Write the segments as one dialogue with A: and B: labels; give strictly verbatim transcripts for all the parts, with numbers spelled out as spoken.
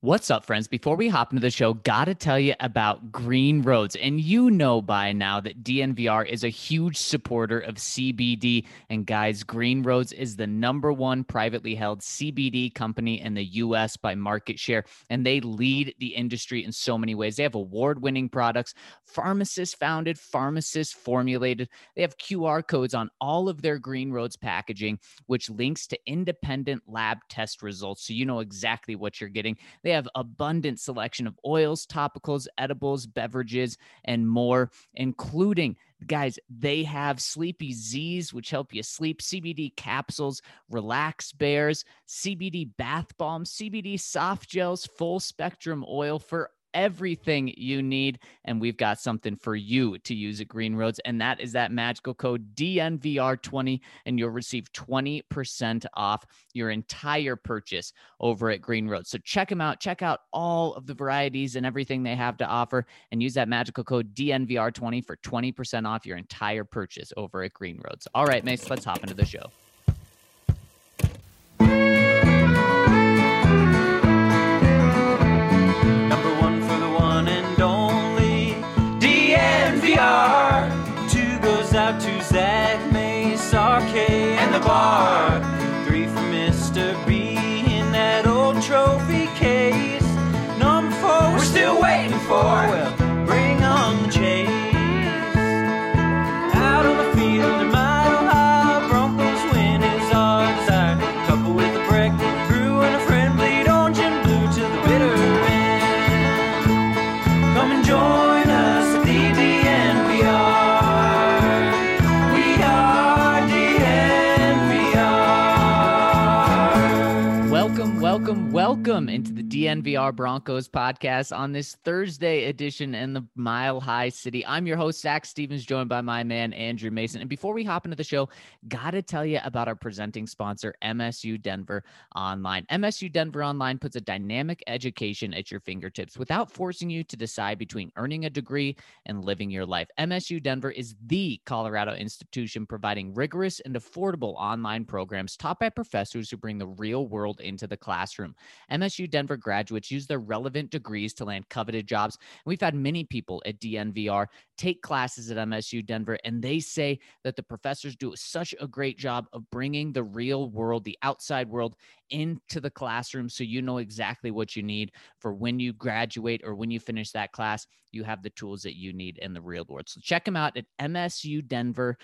A: What's up, friends? Before we hop into the show, gotta tell you about Green Roads. And you know by now that D N V R is a huge supporter of C B D. And guys, Green Roads is the number one privately held C B D company in the U S by market share. And they lead the industry in so many ways. They have award-winning products, pharmacist founded, pharmacist formulated. They have Q R codes on all of their Green Roads packaging, which links to independent lab test results. So you know exactly what you're getting. They have abundant selection of oils, topicals, edibles, beverages, and more, including, guys, they have Sleepy Z's, which help you sleep, C B D capsules, Relax Bears, C B D bath bombs, C B D soft gels, full spectrum oil for everything you need. And we've got something for you to use at Green Roads, and that is that magical code D N V R twenty, and you'll receive twenty percent off your entire purchase over at Green Roads. So check them out. Check out all of the varieties and everything they have to offer, and use that magical code D N V R twenty for twenty percent off your entire purchase over at Green Roads. All right, Mace, let's hop into the show.
B: Two goes out to Zach, Mace, R K, and the bar. Three for Mister B in that old trophy case. Number four, we're still waiting for. Well, bring on the chase. Out on the field, a mile high, Broncos win is our desire. Couple with a break, brew and a friend, bleed orange and blue to the bitter end. Come and join us at the D N V R.
A: Welcome, welcome into the D N V R Broncos podcast on this Thursday edition in the Mile High City. I'm your host, Zach Stevens, joined by my man, Andrew Mason. And before we hop into the show, got to tell you about our presenting sponsor, M S U Denver Online. M S U Denver Online puts a dynamic education at your fingertips without forcing you to decide between earning a degree and living your life. M S U Denver is the Colorado institution providing rigorous and affordable online programs taught by professors who bring the real world into the classroom. M S U Denver graduates use their relevant degrees to land coveted jobs. And we've had many people at D N V R take classes at M S U Denver, and they say that the professors do such a great job of bringing the real world, the outside world, into the classroom, so you know exactly what you need for when you graduate or when you finish that class. You have the tools that you need in the real world. So check them out at M S U Denver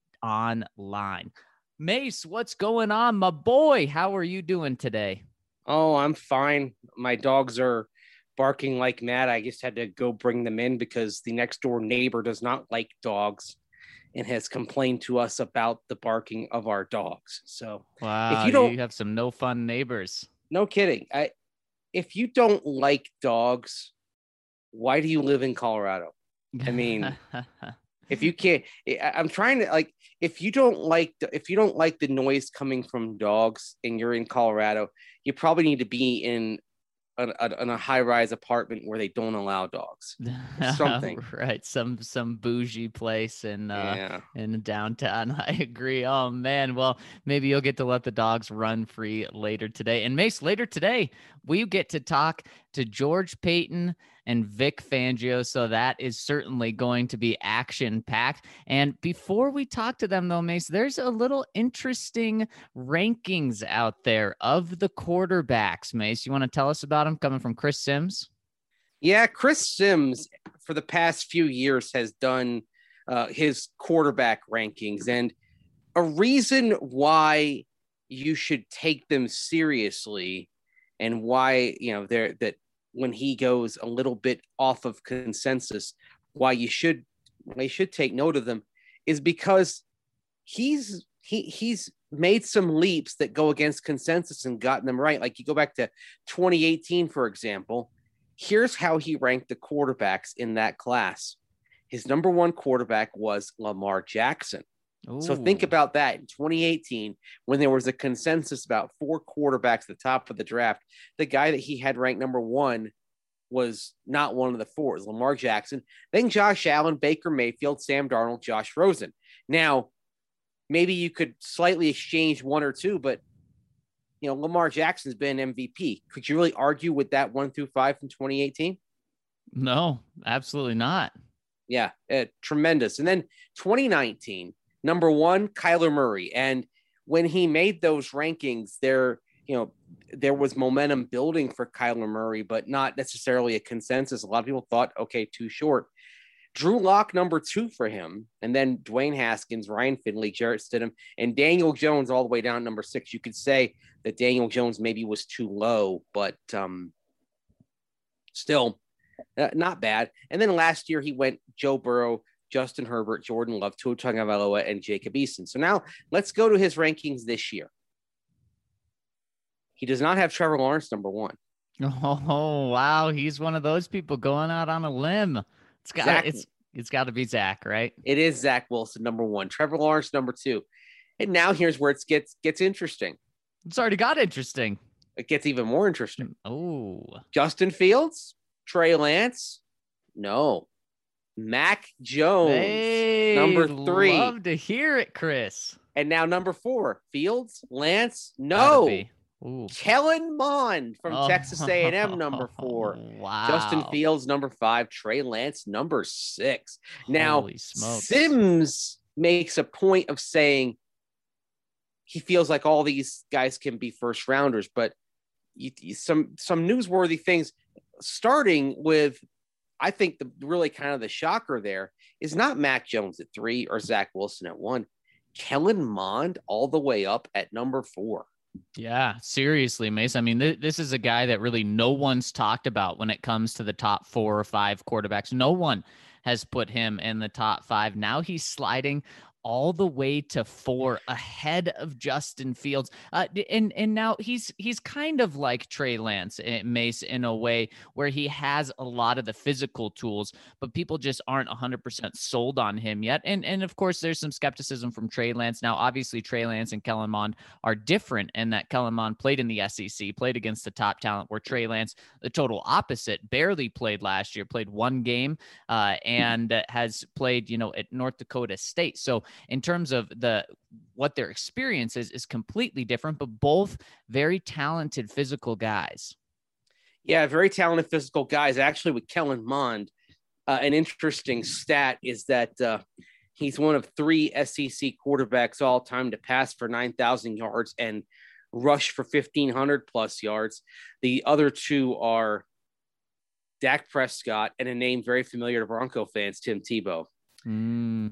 A: Online. Mace, what's going on, my boy? How are you doing today?
C: Oh, I'm fine. My dogs are barking like mad. I just had to go bring them in because the next door neighbor does not like dogs and has complained to us about the barking of our dogs. So
A: wow,
C: if you don't
A: you have some no fun neighbors.
C: No kidding. I, if you don't like dogs, why do you live in Colorado? I mean, if you can't, I'm trying to like, if you don't like, if you don't like the noise coming from dogs and you're in Colorado, you probably need to be in a, a, in a high-rise apartment where they don't allow dogs. Something.
A: Right. Some, some bougie place in, uh,
C: yeah.
A: in downtown. I agree. Oh man. Well, maybe you'll get to let the dogs run free later today. And Mace, later today, we get to talk to George Paton and Vic Fangio. So that is certainly going to be action packed. And before we talk to them though, Mace, there's a little interesting rankings out there of the quarterbacks. Mace, you want to tell us about them, coming from Chris Sims?
C: Yeah. Chris Sims for the past few years has done uh, his quarterback rankings, and a reason why you should take them seriously and why, you know, they're that when he goes a little bit off of consensus, why you should, why you should take note of them is because he's, he he's made some leaps that go against consensus and gotten them right. Like you go back to twenty eighteen, for example, here's how he ranked the quarterbacks in that class. His number one quarterback was Lamar Jackson. Ooh. So think about that in twenty eighteen, when there was a consensus about four quarterbacks at the top of the draft, the guy that he had ranked number one was not one of the four. It was Lamar Jackson, then Josh Allen, Baker Mayfield, Sam Darnold, Josh Rosen. Now, maybe you could slightly exchange one or two, but you know, Lamar Jackson's been M V P. Could you really argue with that one through five from twenty eighteen?
A: No, absolutely not.
C: Yeah, uh, tremendous. And then twenty nineteen, number one, Kyler Murray. And when he made those rankings, there, you know, there was momentum building for Kyler Murray, but not necessarily a consensus. A lot of people thought, okay, too short. Drew Lock, number two for him, and then Dwayne Haskins, Ryan Finley, Jarrett Stidham, and Daniel Jones all the way down number six. You could say that Daniel Jones maybe was too low, but um, still uh, not bad. And then last year he went Joe Burrow, Justin Herbert, Jordan Love, Tua Tagovailoa, and Jacob Eason. So now let's go to his rankings this year. He does not have Trevor Lawrence number one.
A: Oh, wow. He's one of those people going out on a limb. It's got
C: Zach,
A: it's it's got to be Zach, right?
C: It is Zach Wilson number one, Trevor Lawrence number two, and now here's where it gets gets interesting.
A: It's already got interesting.
C: It gets even more interesting.
A: Oh,
C: Justin Fields, Trey Lance, no, Mac Jones,
A: hey,
C: number three.
A: Love to hear it, Chris.
C: And now number four, Fields, Lance, no. Kellen Mond from oh. Texas A and M, number four.
A: Wow.
C: Justin Fields, number five. Trey Lance, number six. Now,
A: Holy smokes.
C: Sims makes a point of saying he feels like all these guys can be first rounders, but you, you, some some newsworthy things, starting with, I think the really kind of the shocker there is not Mac Jones at three or Zach Wilson at one. Kellen Mond all the way up at number four.
A: Yeah, seriously, Mace. I mean, th- this is a guy that really no one's talked about when it comes to the top four or five quarterbacks. No one has put him in the top five. Now he's sliding all the way to four, ahead of Justin Fields. Uh, and and now he's he's kind of like Trey Lance, Mace, in a way where he has a lot of the physical tools, but people just aren't one hundred percent sold on him yet. And, and of course, there's some skepticism from Trey Lance. Now, obviously, Trey Lance and Kellen Mond are different in that Kellen Mond played in the S E C, played against the top talent, where Trey Lance, the total opposite, barely played last year, played one game, uh, and has played, you know, at North Dakota State. So in terms of the what their experience is, is completely different, but both very talented physical guys.
C: Yeah, very talented physical guys. Actually, with Kellen Mond, uh, an interesting stat is that uh, he's one of three S E C quarterbacks all time to pass for nine thousand yards and rush for fifteen hundred plus yards. The other two are Dak Prescott and a name very familiar to Bronco fans, Tim Tebow.
A: Mm,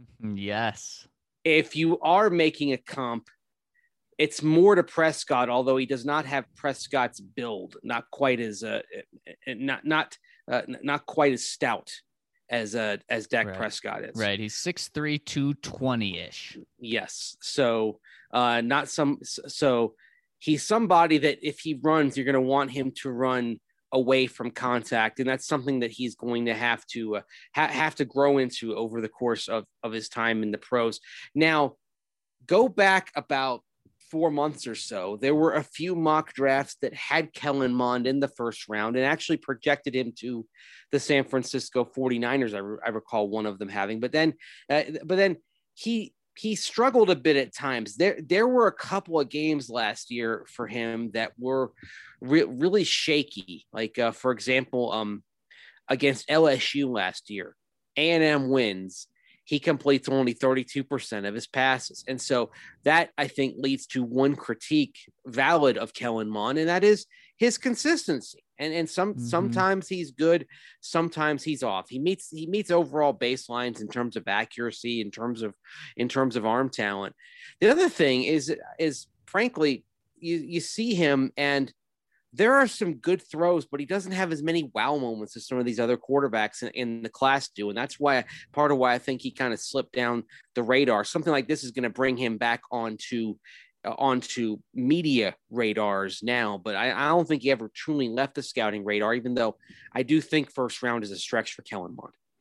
A: yes. If
C: you are making a comp, it's more to Prescott, although he does not have Prescott's build, not quite as uh, not not uh, not quite as stout as uh, as Dak
A: right.
C: Prescott is.
A: Right, he's six three, two twenty ish.
C: Yes, so uh, not some. So he's somebody that if he runs, you're going to want him to run away from contact, and that's something that he's going to have to uh, ha- have to grow into over the course of, of his time in the pros. Now, go back about four months or so, there were a few mock drafts that had Kellen Mond in the first round and actually projected him to the San Francisco forty-niners. I, re- I recall one of them having, but then, uh, but then he he struggled a bit at times. There, there were a couple of games last year for him that were re- really shaky. Like, uh, for example, um, against L S U last year, A and M wins. He completes only thirty-two percent of his passes. And so that, I think, leads to one critique valid of Kellen Mond, and that is his consistency. And and some mm-hmm. sometimes he's good, sometimes he's off. He meets he meets overall baselines in terms of accuracy, in terms of in terms of arm talent. The other thing is is frankly, you you see him and there are some good throws, but he doesn't have as many wow moments as some of these other quarterbacks in, in the class do. And that's why part of why I think he kind of slipped down the radar. Something like this is going to bring him back onto uh, onto media radars now, but I, I don't think he ever truly left the scouting radar, even though I do think first round is a stretch for Kellen Mond.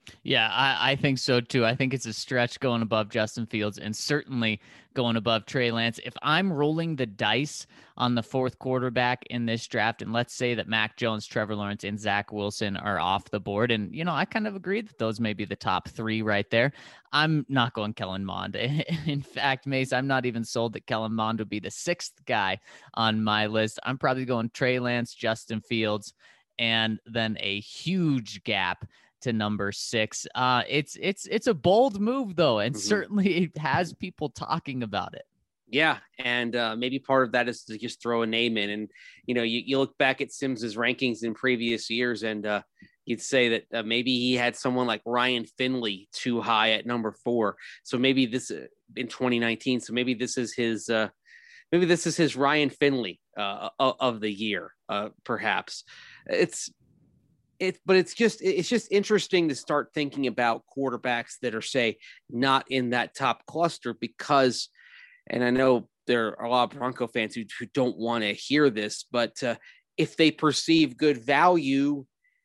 A: Yeah, I, I think so too. I think it's a stretch going above Justin Fields and certainly going above Trey Lance. If I'm rolling the dice on the fourth quarterback in this draft, and let's say that Mac Jones, Trevor Lawrence, and Zach Wilson are off the board, and, you know, I kind of agree that those may be the top three right there. I'm not going Kellen Mond. In fact, Mace, I'm not even sold that Kellen Mond would be the sixth guy on my list. I'm probably going Trey Lance, Justin Fields, and then a huge gap to number six. Uh, it's it's it's a bold move though, and mm-hmm. certainly it has people talking about it.
C: Yeah, and uh, maybe part of that is to just throw a name in, and you know, you, you look back at Sims's rankings in previous years, and uh, you'd say that uh, maybe he had someone like Ryan Finley too high at number four. So maybe this uh, in twenty nineteen. So maybe this is his. Uh, maybe this is his Ryan Finley uh, of the year, uh, perhaps. It's. It, but it's just it's just interesting to start thinking about quarterbacks that are, say, not in that top cluster because, and I know there are a lot of Bronco fans who, who don't want to hear this, but uh, if they perceive good value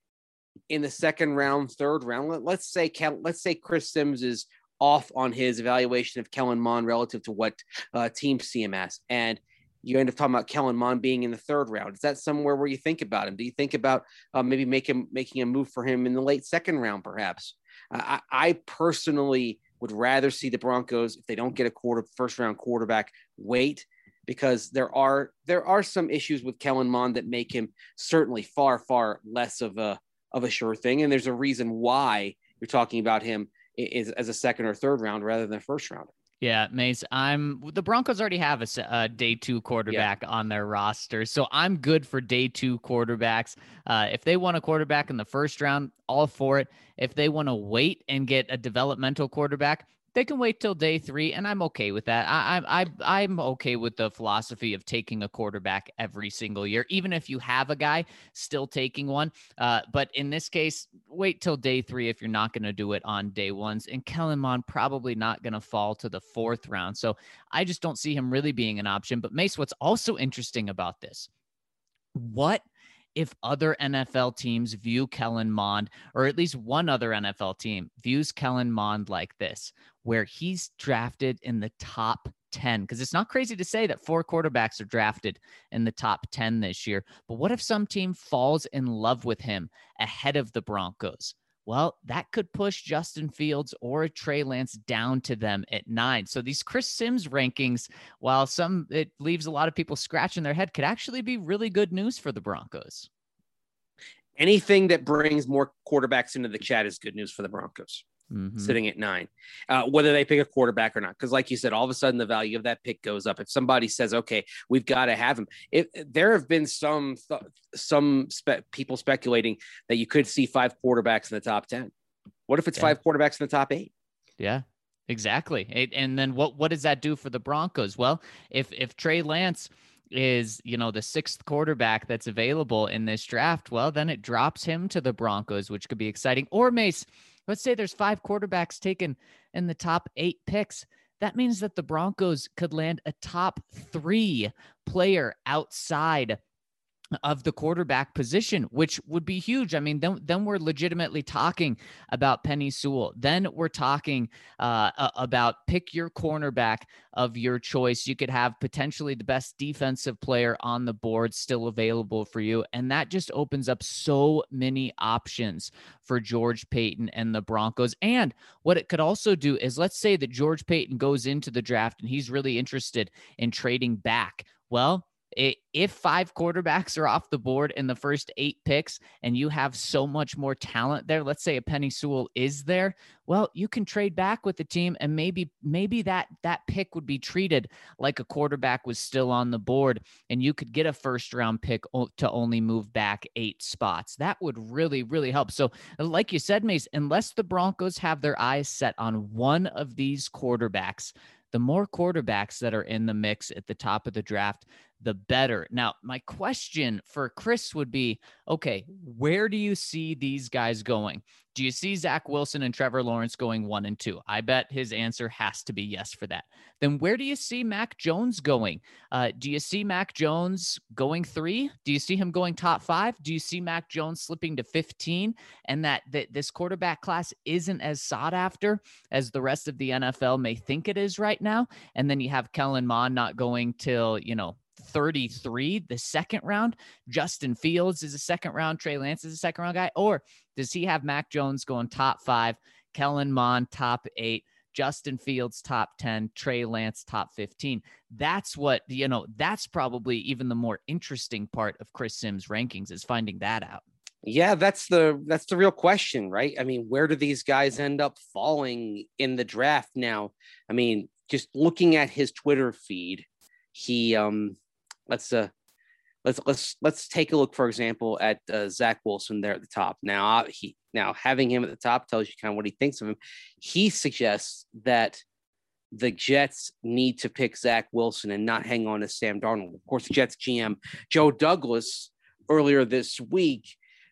C: in the second round, third round, let, let's say let's say Chris Sims is off on his evaluation of Kellen Mond relative to what uh, teams see him as, and you end up talking about Kellen Mond being in the third round. Is that somewhere where you think about him? Do you think about uh, maybe make him, making a move for him in the late second round, perhaps? Uh, I, I personally would rather see the Broncos, if they don't get a quarter first round quarterback, wait, because there are there are some issues with Kellen Mond that make him certainly far, far less of a of a sure thing. And there's a reason why you're talking about him is as a second or third round rather than a first rounder.
A: Yeah, Mace, I'm the Broncos already have a, a day two quarterback yeah. on their roster, so I'm good for day two quarterbacks. Uh, if they want a quarterback in the first round, all for it. If they want to wait and get a developmental quarterback, they can wait till day three, and I'm okay with that. I, I, I, I'm okay with the philosophy of taking a quarterback every single year, even if you have a guy, still taking one. Uh, but in this case, wait till day three if you're not going to do it on day ones. And Kellen Mond probably not going to fall to the fourth round. So I just don't see him really being an option. But Mace, what's also interesting about this, what if other N F L teams view Kellen Mond, or at least one other N F L team views Kellen Mond like this, where he's drafted in the top ten? Because it's not crazy to say that four quarterbacks are drafted in the top ten this year. But what if some team falls in love with him ahead of the Broncos? Well, that could push Justin Fields or Trey Lance down to them at nine. So these Chris Sims rankings, while some it leaves a lot of people scratching their head, could actually be really good news for the Broncos.
C: Anything that brings more quarterbacks into the chat is good news for the Broncos. Mm-hmm. Sitting at nine, uh, whether they pick a quarterback or not. Because like you said, all of a sudden the value of that pick goes up. If somebody says, okay, we've got to have him. If there have been some, th- some spe- people speculating that you could see five quarterbacks in the top ten. What if it's yeah. five quarterbacks in the top eight?
A: Yeah, exactly. It, and then what, what does that do for the Broncos? Well, if, if Trey Lance is, you know, the sixth quarterback that's available in this draft, well, then it drops him to the Broncos, which could be exciting. Or Mace, let's say there's five quarterbacks taken in the top eight picks. That means that the Broncos could land a top three player outside of the quarterback position, which would be huge. I mean, then, then we're legitimately talking about Penei Sewell. Then we're talking uh, about pick your cornerback of your choice. You could have potentially the best defensive player on the board still available for you. And that just opens up so many options for George Paton and the Broncos. And what it could also do is, let's say that George Paton goes into the draft and he's really interested in trading back. Well, if five quarterbacks are off the board in the first eight picks and you have so much more talent there, let's say a Penei Sewell is there, well, you can trade back with the team and maybe maybe that that pick would be treated like a quarterback was still on the board and you could get a first round pick to only move back eight spots. That would really, really help. So like you said, Mace, unless the Broncos have their eyes set on one of these quarterbacks, the more quarterbacks that are in the mix at the top of the draft, the better. Now, my question for Chris would be, okay, where do you see these guys going? Do you see Zach Wilson and Trevor Lawrence going one and two? I bet his answer has to be yes for that. Then where do you see Mac Jones going? Uh, do you see Mac Jones going three? Do you see him going top five? Do you see Mac Jones slipping to fifteen? And that, that this quarterback class isn't as sought after as the rest of the N F L may think it is right now. And then you have Kellen Mond not going till, you know, thirty-three, the second round. Justin Fields is a second round. Trey Lance is a second round guy. Or does he have Mac Jones going top five, Kellen Mond top eight, Justin Fields top ten, Trey Lance top fifteen? That's what, you know, that's probably even the more interesting part of Chris Sims' rankings, is finding that out.
C: Yeah, that's the that's the real question, right? I mean, where do these guys end up falling in the draft now? I mean, just looking at his Twitter feed, he um let's uh let's let's let's take a look, for example, at uh, Zach Wilson there at the top. Now he now having him at the top tells you kind of what he thinks of him. He suggests that the Jets need to pick Zach Wilson and not hang on to Sam Darnold. Of course, the Jets G M Joe Douglas earlier this week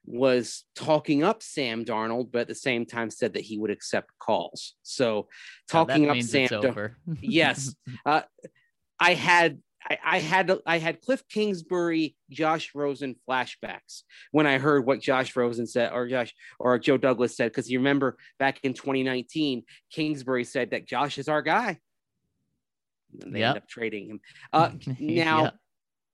C: was talking up Sam Darnold, but at the same time said that he would accept calls. So talking
A: oh,
C: up Sam Darnold. Yes. Uh, I had I, I had I had Cliff Kingsbury, Josh Rosen flashbacks when I heard what Josh Rosen said, or Josh or Joe Douglas said, because you remember back in twenty nineteen, Kingsbury said that Josh is our guy. And they yep. end up trading him. Uh, now, yep.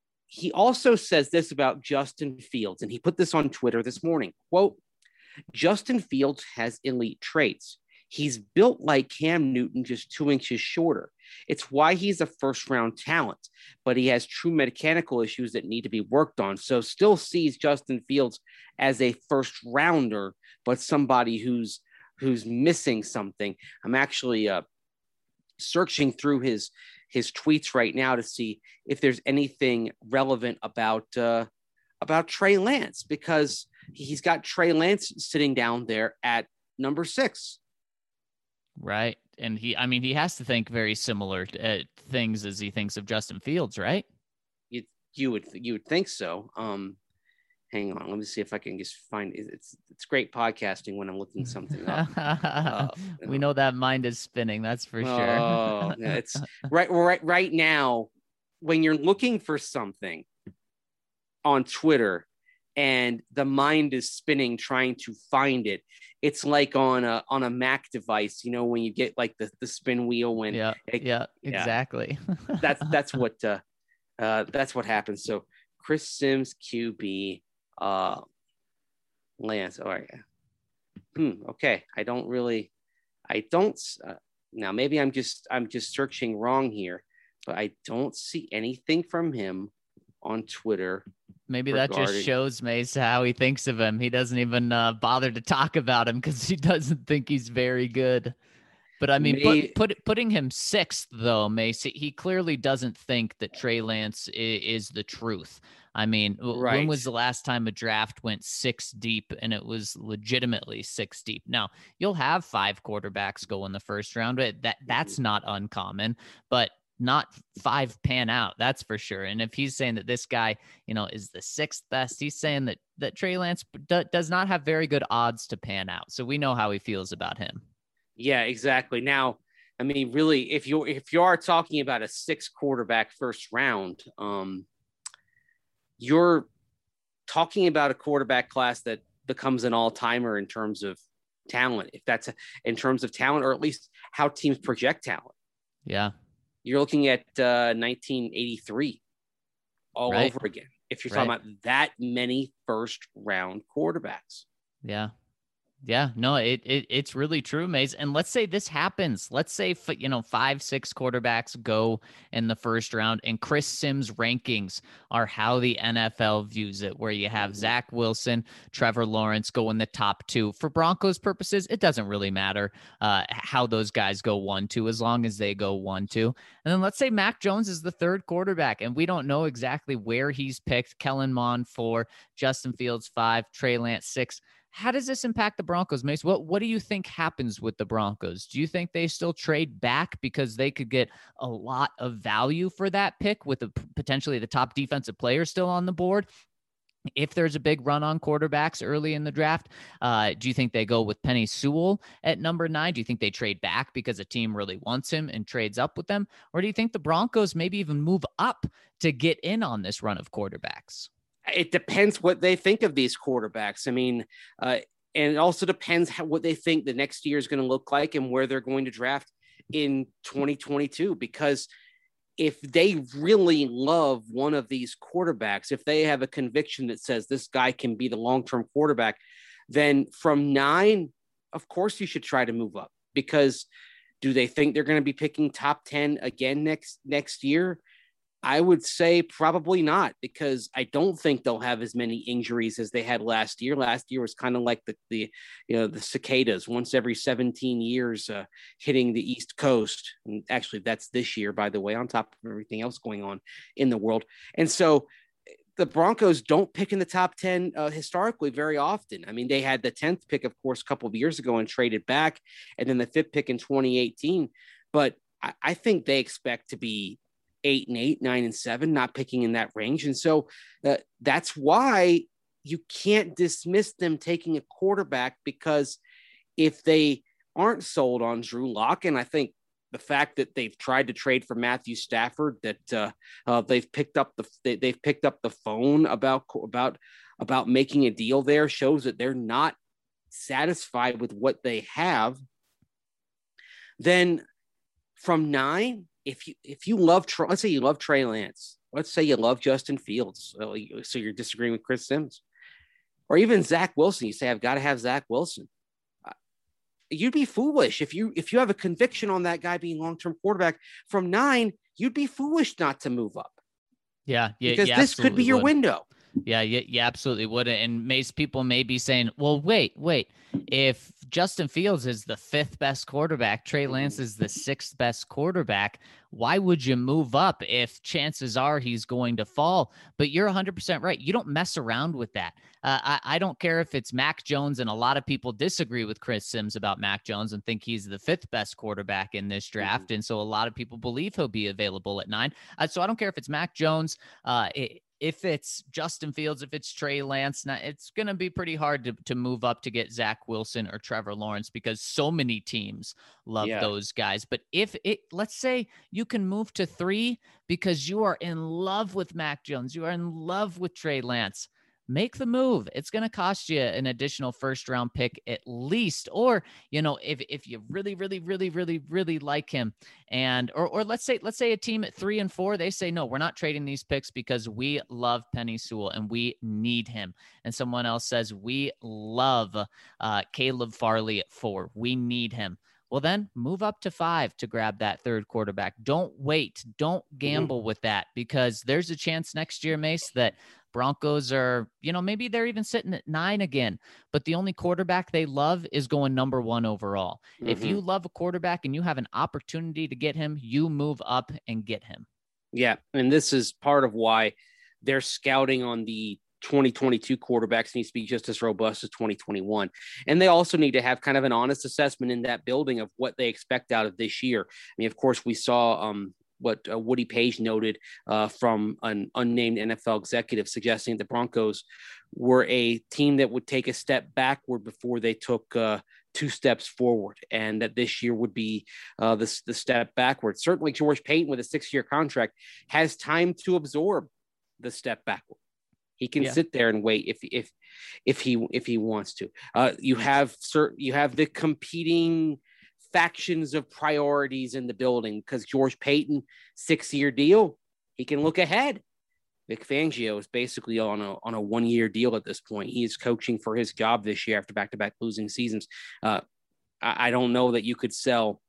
C: He also says this about Justin Fields, and he put this on Twitter this morning. Quote, Justin Fields has elite traits. He's built like Cam Newton, just two inches shorter. It's why he's a first-round talent, but he has true mechanical issues that need to be worked on. So still sees Justin Fields as a first-rounder, but somebody who's who's missing something. I'm actually uh, searching through his his tweets right now to see if there's anything relevant about uh, about Trey Lance, because he's got Trey Lance sitting down there at number six.
A: Right. And he, I mean, he has to think very similar uh, things as he thinks of Justin Fields, right?
C: You, you would, you would think so. Um, hang on. Let me see if I can just find it. It's, it's great podcasting when I'm looking something up. uh,
A: we know. know that mind is spinning. That's for sure.
C: Oh, yeah, it's right, right, right now when you're looking for something on Twitter and the mind is spinning trying to find it. It's like on a on a Mac device, you know, when you get like the, the spin wheel when
A: yeah,
C: it,
A: yeah, exactly.
C: that's that's what uh, uh that's what happens. So Chris Sims Q B uh Lance. All right. Hmm, okay. I don't really I don't uh, now maybe I'm just I'm just searching wrong here, but I don't see anything from him on Twitter.
A: Maybe that just shows Mace how he thinks of him. He doesn't even uh, bother to talk about him because he doesn't think he's very good. But I mean, put, put, putting him sixth, though, Mace, he clearly doesn't think that Trey Lance is, is the truth. I mean, right. When was the last time a draft went six deep and it was legitimately six deep? Now, you'll have five quarterbacks go in the first round, but that that's not uncommon. But not five pan out, that's for sure. And if he's saying that this guy, you know, is the sixth best, he's saying that that Trey Lance d- does not have very good odds to pan out. So we know how he feels about him.
C: Yeah, exactly. Now, I mean, really, if you if you are talking about a six quarterback first round, um, you're talking about a quarterback class that becomes an all timer in terms of talent. If that's a, in terms of talent, or at least how teams project talent.
A: Yeah.
C: You're looking at uh, nineteen eighty-three all right. over again. If you're right. talking about that many first round quarterbacks.
A: Yeah. Yeah, no, it, it it's really true, Maze. And let's say this happens. Let's say, you know, five, six quarterbacks go in the first round, and Chris Sims' rankings are how the N F L views it, where you have Zach Wilson, Trevor Lawrence go in the top two. For Broncos purposes, it doesn't really matter uh, how those guys go one, two, as long as they go one, two. And then let's say Mac Jones is the third quarterback, and we don't know exactly where he's picked. Kellen Mond four, Justin Fields five, Trey Lance six. how does this impact the Broncos, Mace? What what do you think happens with the Broncos? Do you think they still trade back because they could get a lot of value for that pick with the, potentially the top defensive player still on the board? If there's a big run on quarterbacks early in the draft, uh, do you think they go with Penei Sewell at number nine? Do you think they trade back because a team really wants him and trades up with them? Or do you think the Broncos maybe even move up to get in on this run of quarterbacks?
C: It depends what they think of these quarterbacks. I mean, uh, and it also depends how, what they think the next year is going to look like and where they're going to draft in twenty twenty-two, because if they really love one of these quarterbacks, if they have a conviction that says this guy can be the long-term quarterback, then from nine, of course you should try to move up, because do they think they're going to be picking top ten again next, next year? I would say probably not, because I don't think they'll have as many injuries as they had last year. Last year was kind of like the, the, you know, the cicadas once every seventeen years uh, hitting the East Coast. And actually that's this year, by the way, on top of everything else going on in the world. And so the Broncos don't pick in the top ten uh, historically very often. I mean, they had the tenth pick, of course, a couple of years ago and traded back, and then the fifth pick in twenty eighteen. But I, I think they expect to be eight and eight, nine and seven, not picking in that range. And so uh, that's why you can't dismiss them taking a quarterback, because if they aren't sold on Drew Lock, and I think the fact that they've tried to trade for Matthew Stafford, that uh, uh, they've picked up the they, they've picked up the phone about about about making a deal there, shows that they're not satisfied with what they have. Then from nine, if you if you love, let's say you love Trey Lance, let's say you love Justin Fields, so you're disagreeing with Chris Sims, or even Zach Wilson. You say, I've got to have Zach Wilson. Uh, you'd be foolish if you if you have a conviction on that guy being long-term quarterback from nine. You'd be foolish not to move up.
A: Yeah, yeah,
C: because
A: yeah,
C: this could be your
A: would.
C: window.
A: Yeah, yeah, you absolutely would. And Mace, people may be saying, well, wait, wait. If Justin Fields is the fifth best quarterback, Trey Lance is the sixth best quarterback, why would you move up if chances are he's going to fall? But you're one hundred percent right. You don't mess around with that. Uh, I, I don't care if it's Mac Jones, and a lot of people disagree with Chris Sims about Mac Jones and think he's the fifth best quarterback in this draft. Mm-hmm. And so a lot of people believe he'll be available at nine. Uh, so I don't care if it's Mac Jones, uh, it, if it's Justin Fields, if it's Trey Lance, now it's going to be pretty hard to, to move up to get Zach Wilson or Trevor Lawrence, because so many teams love yeah. those guys. But if it, let's say you can move to three because you are in love with Mac Jones, you are in love with Trey Lance, make the move. It's going to cost you an additional first round pick at least. Or, you know, if, if you really, really, really, really, really like him, and, or, or let's say, let's say a team at three and four, they say, no, we're not trading these picks because we love Penei Sewell and we need him. And someone else says, we love uh, Caleb Farley at four. We need him. Well, then move up to five to grab that third quarterback. Don't wait. Don't gamble with that, because there's a chance next year, Mace, that Broncos are, you know, maybe they're even sitting at nine again, but the only quarterback they love is going number one overall. Mm-hmm. If you love a quarterback and you have an opportunity to get him, you move up and get him.
C: Yeah. And this is part of why their scouting on the twenty twenty-two quarterbacks needs to be just as robust as twenty twenty-one. And they also need to have kind of an honest assessment in that building of what they expect out of this year. I mean, of course, we saw um, what uh, Woody Page noted uh, from an unnamed N F L executive, suggesting the Broncos were a team that would take a step backward before they took uh, two steps forward, and that this year would be uh, the, the step backward. Certainly George Paton, with a six-year contract, has time to absorb the step backward. He can yeah. sit there and wait if if if he if he wants to. Uh, you have certain you have the competing factions of priorities in the building, because George Paton, six-year deal, he can look ahead. Vic Fangio is basically on a on a one-year deal at this point. He is coaching for his job this year after back-to-back losing seasons. Uh, I, I don't know that you could sell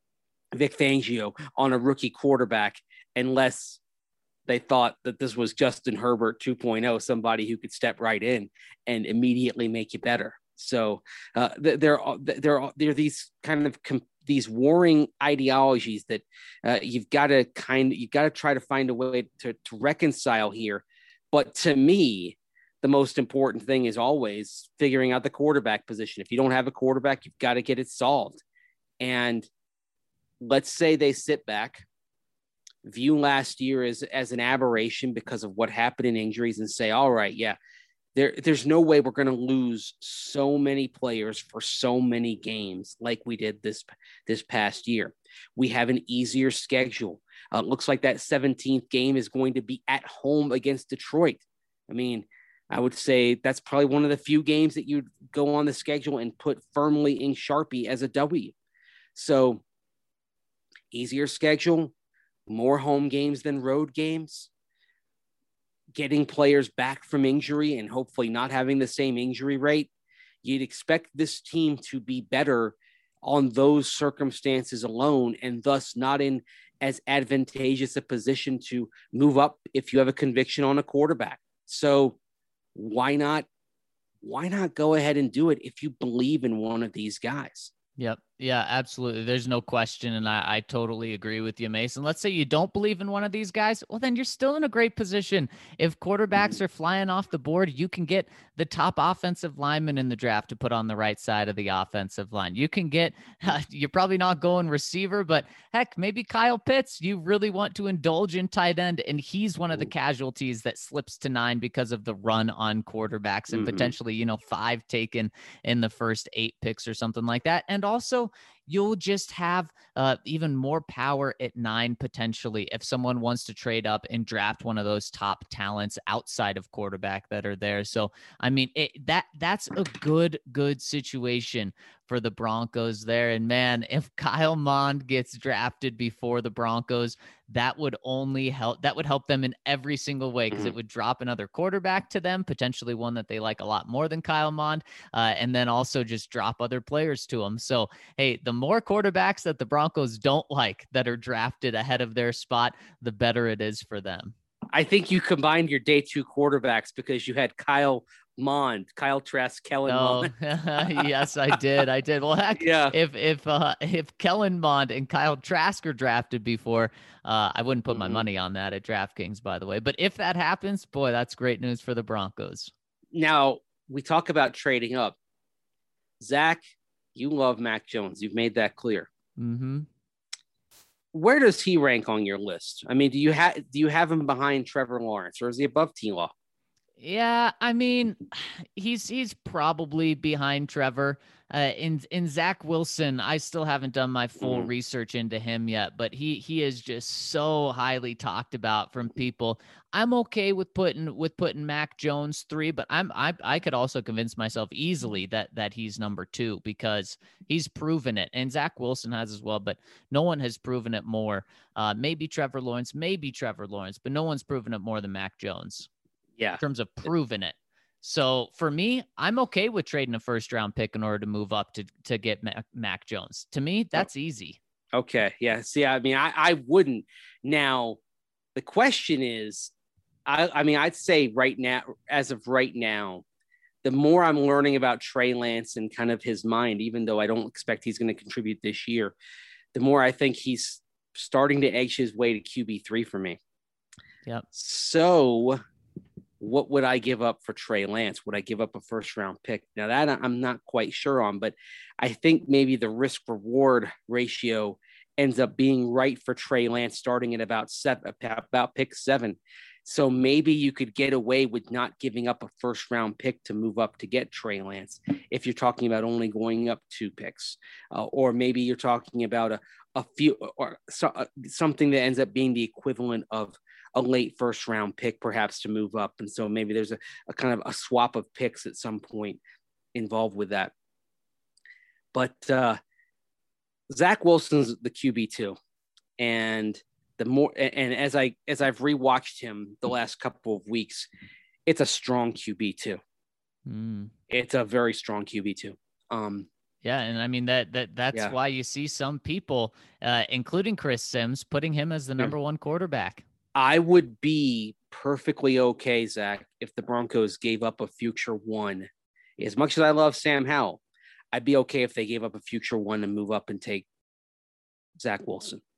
C: Vic Fangio on a rookie quarterback unless they thought that this was Justin Herbert two point oh, somebody who could step right in and immediately make you better. So uh, there are there are there are these kind of com- these warring ideologies that uh, you've got to kind of you've got to try to find a way to, to reconcile here. But to me, the most important thing is always figuring out the quarterback position. If you don't have a quarterback, you've got to get it solved. And let's say they sit back, view last year as, as an aberration because of what happened in injuries, and say, all right, yeah, there, there's no way we're going to lose so many players for so many games like we did this, this past year. We have an easier schedule. Uh, looks like that seventeenth game is going to be at home against Detroit. I mean, I would say that's probably one of the few games that you'd go on the schedule and put firmly in Sharpie as a W. So easier schedule, more home games than road games, getting players back from injury and hopefully not having the same injury rate. You'd expect this team to be better on those circumstances alone, and thus not in as advantageous a position to move up if you have a conviction on a quarterback. So why not, why not go ahead and do it if you believe in one of these guys?
A: Yep. Yeah, absolutely. There's no question. And I, I totally agree with you, Mason. Let's say you don't believe in one of these guys. Well, then you're still in a great position. If quarterbacks are flying off the board, you can get the top offensive lineman in the draft to put on the right side of the offensive line. You can get, uh, you're probably not going receiver, but heck, maybe Kyle Pitts, you really want to indulge in tight end. And he's one of the casualties that slips to nine because of the run on quarterbacks and mm-hmm. potentially, you know, five taken in the first eight picks or something like that. And also, you'll just have uh, even more power at nine potentially if someone wants to trade up and draft one of those top talents outside of quarterback that are there. So, I mean, it, that that's a good, good situation for the Broncos there. And man, if Kyle Mond gets drafted before the Broncos, that would only help. That would help them in every single way because mm-hmm. it would drop another quarterback to them, potentially one that they like a lot more than Kyle Mond, uh, and then also just drop other players to them. So, hey, the more quarterbacks that the Broncos don't like that are drafted ahead of their spot, the better it is for them.
C: I think you combined your day two quarterbacks because you had Kyle Mond, Kyle Trask, Kellen
A: oh,
C: Mond.
A: Yes, I did. I did. Well, heck, yeah. if if uh, if Kellen Mond and Kyle Trask are drafted before, uh, I wouldn't put mm-hmm. my money on that at DraftKings, by the way. But if that happens, boy, that's great news for the Broncos.
C: Now, we talk about trading up. Zach, you love Mac Jones. You've made that clear.
A: Mm-hmm.
C: Where does he rank on your list? I mean, do you have do you have him behind Trevor Lawrence, or is he above T-Law?
A: Yeah, I mean, he's he's probably behind Trevor. Uh, in in Zach Wilson, I still haven't done my full mm-hmm. research into him yet, but he he is just so highly talked about from people. I'm okay with putting with putting Mac Jones three, but I'm I I could also convince myself easily that that he's number two because he's proven it, and Zach Wilson has as well, but no one has proven it more. Uh, maybe Trevor Lawrence, maybe Trevor Lawrence, but no one's proven it more than Mac Jones.
C: Yeah,
A: in terms of proving it. So for me, I'm okay with trading a first round pick in order to move up to, to get Mac, Mac Jones. To me, that's easy.
C: Okay. Yeah. See, I mean, I, I wouldn't. Now, the question is, I, I mean, I'd say right now, as of right now, the more I'm learning about Trey Lance and kind of his mind, even though I don't expect he's going to contribute this year, the more I think he's starting to edge his way to Q B three for me.
A: Yep.
C: So what would I give up for Trey Lance? Would I give up a first round pick? Now that I'm not quite sure on, but I think maybe the risk reward ratio ends up being right for Trey Lance starting at about seven, about pick seven. So maybe you could get away with not giving up a first round pick to move up to get Trey Lance. If you're talking about only going up two picks, uh, or maybe you're talking about a, a few or so, uh, something that ends up being the equivalent of a late first round pick, perhaps to move up. And so maybe there's a, a kind of a swap of picks at some point involved with that. But uh, Zach Wilson's the Q B two. And the more, and as I, as I've rewatched him the last couple of weeks, it's a strong Q B two.
A: Mm.
C: It's a very strong Q B two. Um,
A: Yeah, and I mean that that that's yeah. why you see some people, uh, including Chris Sims, putting him as the number yeah. one quarterback.
C: I would be perfectly okay, Zach, if the Broncos gave up a future one. As much as I love Sam Howell, I'd be okay if they gave up a future one and move up and take Zach Wilson.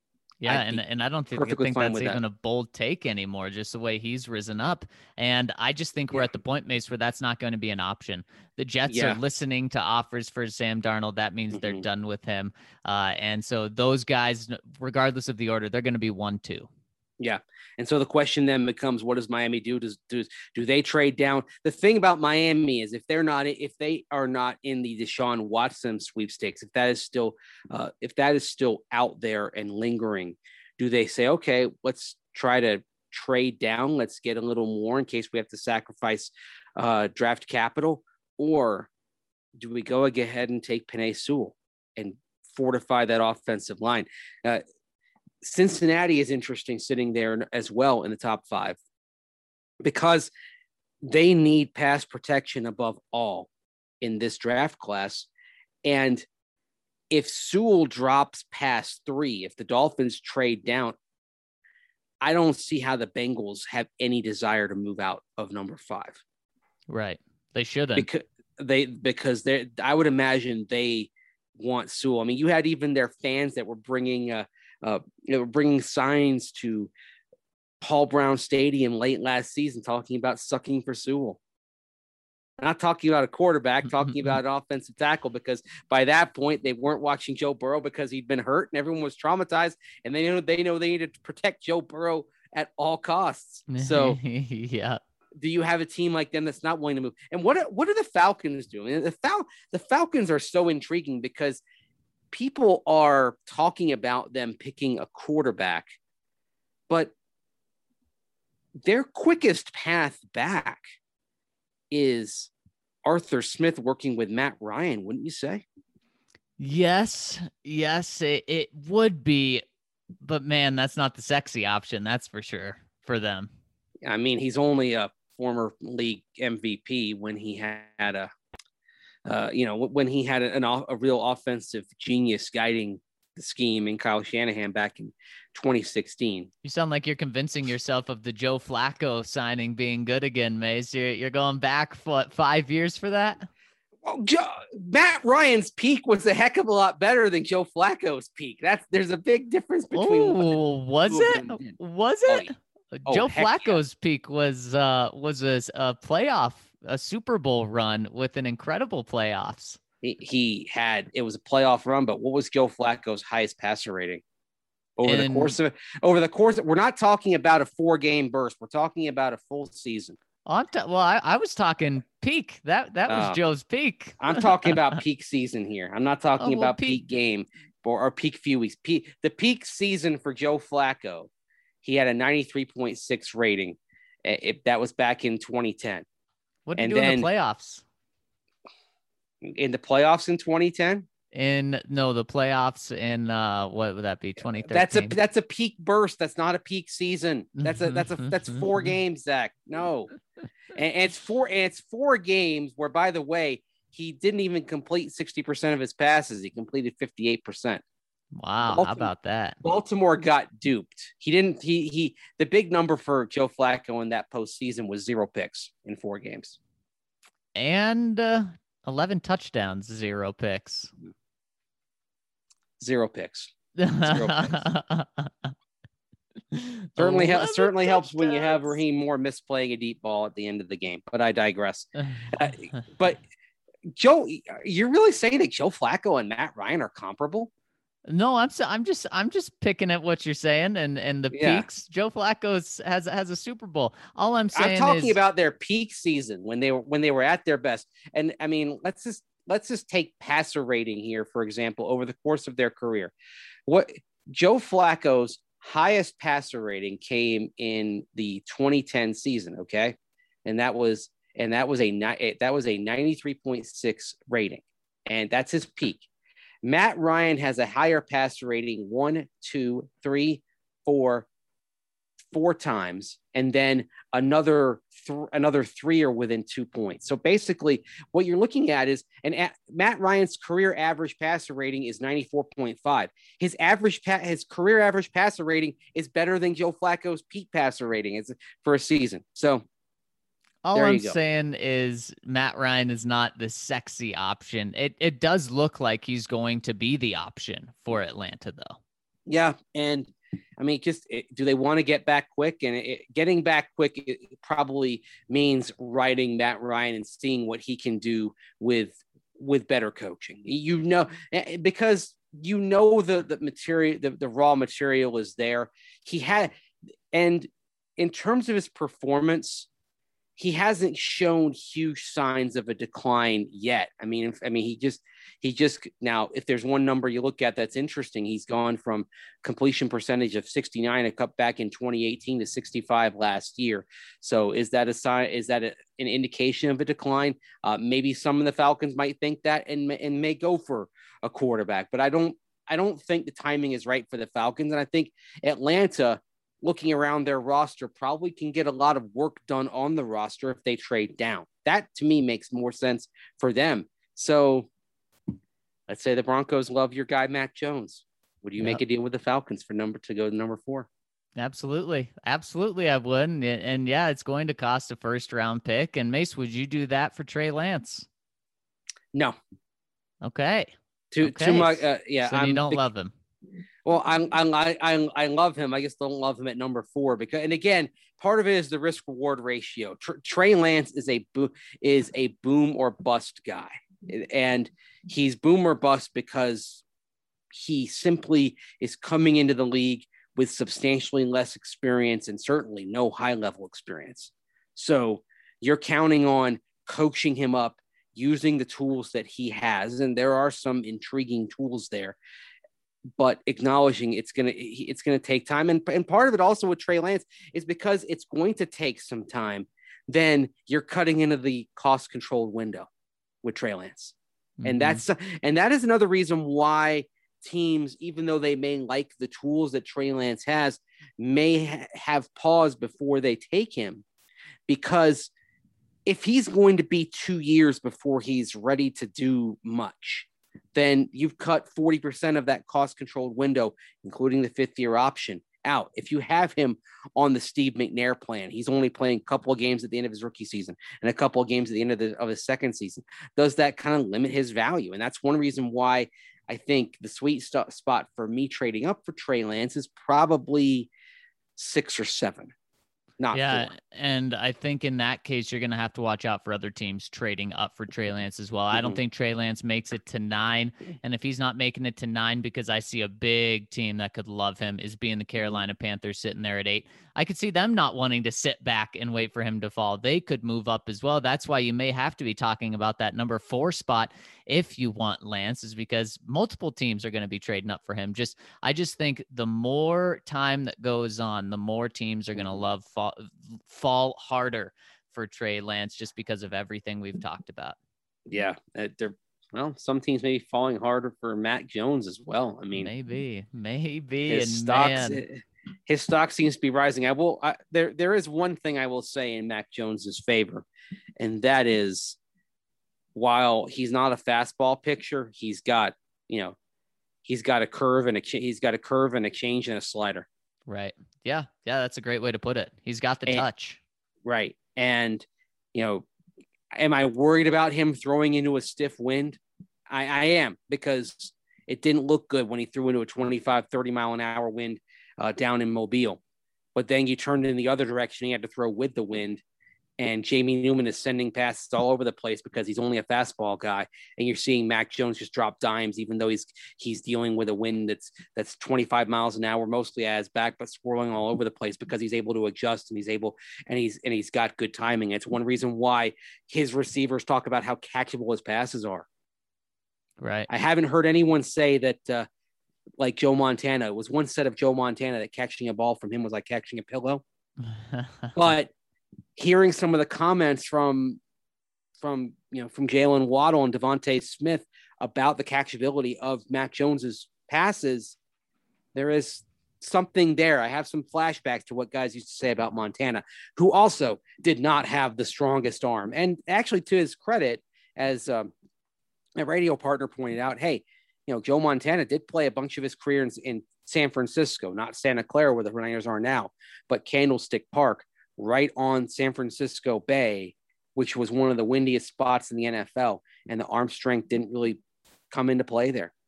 A: Yeah,
C: I'd
A: and,
C: be
A: and I don't think,
C: perfectly
A: think
C: fine
A: that's
C: with
A: even
C: that.
A: a bold take anymore, just the way he's risen up. And I just think we're
C: Yeah.
A: at the point, Mace, where that's not going to be an option. The Jets are
C: Yeah.
A: listening to offers for Sam Darnold. That means they're
C: Mhm.
A: done with him. Uh, and so those guys, regardless of the order, they're going to be one, two.
C: Yeah. And so the question then becomes, what does Miami do? Does do do they trade down? The thing about Miami is if they're not if they are not in the Deshaun Watson sweepstakes, if that is still uh, if that is still out there and lingering, do they say, okay, let's try to trade down, let's get a little more in case we have to sacrifice uh, draft capital, or do we go ahead and take Penei Sewell and fortify that offensive line? Uh, Cincinnati is interesting sitting there as well in the top five because they need pass protection above all in this draft class. And if Sewell drops past three, if the Dolphins trade down, I don't see how the Bengals have any desire to move out of number five.
A: Right. They shouldn't.
C: Because they because they I would imagine they want Sewell. I mean, you had even their fans that were bringing uh, uh you know bringing signs to Paul Brown Stadium late last season talking about sucking for Sewell. Not talking about a quarterback, talking about an offensive tackle, because by that point they weren't watching Joe Burrow because he'd been hurt and everyone was traumatized, and they know they know they needed to protect Joe Burrow at all costs. So
A: yeah.
C: Do you have a team like them that's not willing to move? And what are, what are the Falcons doing? The Fal- the Falcons are so intriguing because people are talking about them picking a quarterback, but their quickest path back is Arthur Smith working with Matt Ryan, wouldn't you say?
A: Yes, yes, it, it would be, but man, that's not the sexy option. That's for sure for them.
C: I mean, he's only a former league M V P when he had a, uh, you know, when he had an, a real offensive genius guiding the scheme in Kyle Shanahan back in twenty sixteen.
A: You sound like you're convincing yourself of the Joe Flacco signing being good again, Mace. You're, you're going back for what, five years for that?
C: Well, Joe, Matt Ryan's peak was a heck of a lot better than Joe Flacco's peak. That's there's a big difference between.
A: Oh, was it? Was
C: Oh,
A: it?
C: yeah.
A: Joe
C: Oh,
A: Flacco's yeah. peak was uh was a, a playoff, a Super Bowl run with an incredible playoffs.
C: He, he had it was a playoff run, but what was Joe Flacco's highest passer rating over and, the course of over the course? Of, we're not talking about a four game burst. We're talking about a full season.
A: I'm t- well, I, I was talking peak. That that was uh, Joe's peak.
C: I'm talking about peak season here. I'm not talking oh, well, about peak, peak game or, or peak few weeks. Peak, the peak season for Joe Flacco. He had a ninety-three point six rating. If that was back in twenty ten.
A: What did you do in the playoffs?
C: In the playoffs in twenty ten?
A: In no, the playoffs in uh, what would that be? twenty thirteen.
C: That's a that's a peak burst. That's not a peak season. That's a that's a that's four games, Zach. No, and, and it's four and it's four games where, by the way, he didn't even complete sixty percent of his passes. He completed fifty-eight percent.
A: Wow, Baltimore, how about that?
C: Baltimore got duped. He didn't. He he. The big number for Joe Flacco in that postseason was zero picks in four games,
A: and uh, eleven touchdowns, zero picks.
C: Zero picks. Zero picks. certainly ha- certainly helps when you have Raheem Moore misplaying a deep ball at the end of the game. But I digress. uh, but Joe, you're really saying that Joe Flacco and Matt Ryan are comparable?
A: No, I'm so, I'm just I'm just picking at what you're saying and and the yeah. peaks. Joe Flacco has has a Super Bowl. All I'm saying
C: I'm talking
A: is,
C: about their peak season when they were when they were at their best. And I mean, let's just let's just take passer rating here, for example, over the course of their career. What Joe Flacco's highest passer rating came in the twenty ten season, okay? And that was and that was a that was a ninety-three point six rating. And that's his peak. Matt Ryan has a higher passer rating one, two, three, four, four times, and then another th- another three are within two points. So basically, what you're looking at is, and a- Matt Ryan's career average passer rating is ninety-four point five. His average pa- his career average passer rating is better than Joe Flacco's peak passer rating is for a season. So.
A: All I'm saying is Matt Ryan is not the sexy option. It it does look like he's going to be the option for Atlanta, though.
C: Yeah, and I mean, just do they want to get back quick? And it, getting back quick it probably means riding Matt Ryan and seeing what he can do with with better coaching. You know, because you know the the material, the, the raw material is there. He had, and in terms of his performance, he hasn't shown huge signs of a decline yet. I mean, I mean, he just, he just now, if there's one number you look at that's interesting, he's gone from completion percentage of sixty-nine, a cut back in twenty eighteen to sixty-five last year. So is that a sign? Is that a, an indication of a decline? Uh, maybe some of the Falcons might think that and and may go for a quarterback, but I don't, I don't think the timing is right for the Falcons, and I think Atlanta, looking around their roster, probably can get a lot of work done on the roster if they trade down. That to me makes more sense for them. So let's say the Broncos love your guy, Mac Jones. Would you yep. make a deal with the Falcons for number to go to number four?
A: Absolutely. Absolutely. I would. And, and yeah, it's going to cost a first round pick. And Mace, would you do that for Trey Lance?
C: No.
A: Okay.
C: Too,
A: okay.
C: too much. Uh, yeah.
A: So you don't the, love him.
C: Well, I, I I I love him. I just don't love him at number four because, and again, part of it is the risk reward ratio. Tr- Trey Lance is a bo- is a boom or bust guy, and he's boom or bust because he simply is coming into the league with substantially less experience and certainly no high level experience. So you're counting on coaching him up, using the tools that he has, and there are some intriguing tools there, but acknowledging it's going to, it's going to take time. And, and part of it also with Trey Lance is because it's going to take some time. Then you're cutting into the cost controlled window with Trey Lance. Mm-hmm. And that's, and that is another reason why teams, even though they may like the tools that Trey Lance has, may ha- have paused before they take him, because if he's going to be two years before he's ready to do much, then you've cut forty percent of that cost-controlled window, including the fifth-year option, out. If you have him on the Steve McNair plan, he's only playing a couple of games at the end of his rookie season and a couple of games at the end of, the, of his second season. Does that kind of limit his value? And that's one reason why I think the sweet st- spot for me trading up for Trey Lance is probably six or seven. Not
A: yeah,
C: four.
A: And I think in that case, you're going to have to watch out for other teams trading up for Trey Lance as well. Mm-hmm. I don't think Trey Lance makes it to nine. And if he's not making it to nine, because I see a big team that could love him, is being the Carolina Panthers sitting there at eight. I could see them not wanting to sit back and wait for him to fall. They could move up as well. That's why you may have to be talking about that number four spot if you want Lance, is because multiple teams are going to be trading up for him. Just, I just think the more time that goes on, the more teams are going to love fall, fall harder for Trey Lance, just because of everything we've talked about.
C: Yeah. Uh, they're, well, some teams may be falling harder for Mac Jones as well. I mean,
A: maybe, maybe.
C: His
A: and
C: stocks,
A: man.
C: his stock seems to be rising. I will, I, there, there is one thing I will say in Mac Jones's favor, and that is, while he's not a fastball pitcher, he's got, you know, he's got a curve and a, he's got a curve and a change and a slider.
A: Right. Yeah. Yeah. That's a great way to put it. He's got the
C: and,
A: touch.
C: Right. And, you know, am I worried about him throwing into a stiff wind? I, I am, because it didn't look good when he threw into a twenty-five, thirty mile an hour wind uh, down in Mobile. But then you turned in the other direction. He had to throw with the wind. And Jamie Newman is sending passes all over the place because he's only a fastball guy. And you're seeing Mac Jones just drop dimes, even though he's he's dealing with a wind that's that's twenty-five miles an hour, mostly at his back, but swirling all over the place, because he's able to adjust and he's able and he's and he's got good timing. It's one reason why his receivers talk about how catchable his passes are.
A: Right.
C: I haven't heard anyone say that, uh, like Joe Montana. It was one set of Joe Montana that catching a ball from him was like catching a pillow. But hearing some of the comments from, from you know, from Jalen Waddle and Devontae Smith about the catchability of Mac Jones's passes, there is something there. I have some flashbacks to what guys used to say about Montana, who also did not have the strongest arm. And actually, to his credit, as um, a radio partner pointed out, hey, you know, Joe Montana did play a bunch of his career in, in San Francisco, not Santa Clara, where the Niners are now, but Candlestick Park, right on San Francisco Bay, which was one of the windiest spots in the N F L. And the arm strength didn't really come into play there.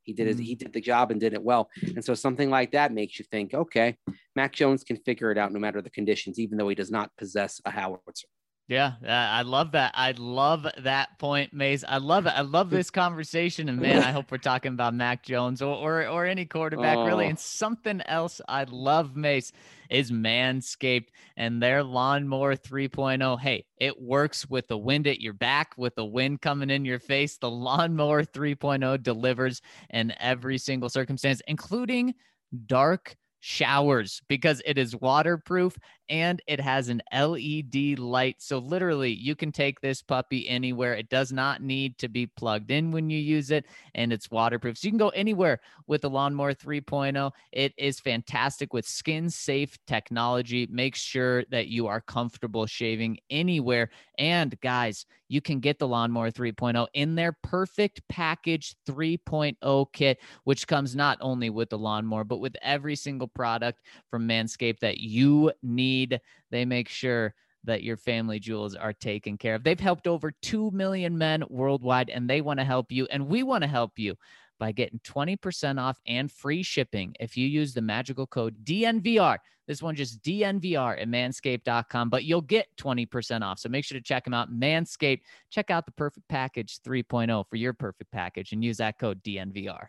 C: He did it. He did the job and did it well. And so something like that makes you think, okay, Mac Jones can figure it out no matter the conditions, even though he does not possess a howitzer.
A: Yeah, I love that. I love that point, Mace. I love it. I love this conversation. And man, I hope we're talking about Mac Jones or or, or any quarterback, oh. really. And something else I love, Mace, is Manscaped and their Lawnmower three point oh. Hey, it works with the wind at your back, with the wind coming in your face. The Lawnmower three point oh delivers in every single circumstance, including dark showers, because it is waterproof and it has an L E D light. So literally you can take this puppy anywhere. It does not need to be plugged in when you use it, and it's waterproof. So you can go anywhere with the Lawnmower three point oh. It is fantastic with skin safe technology. Make sure that you are comfortable shaving anywhere. And guys, you can get the Lawnmower three point oh in their Perfect Package three point oh kit, which comes not only with the lawnmower, but with every single product from Manscaped that you need. They make sure that your family jewels are taken care of. They've helped over two million men worldwide, and they want to help you, and we want to help you by getting twenty percent off and free shipping if you use the magical code D N V R. This one just D N V R at manscaped dot com, but you'll get twenty percent off. So make sure to check them out. Manscaped, check out the Perfect Package three point oh for your perfect package and use that code D N V R.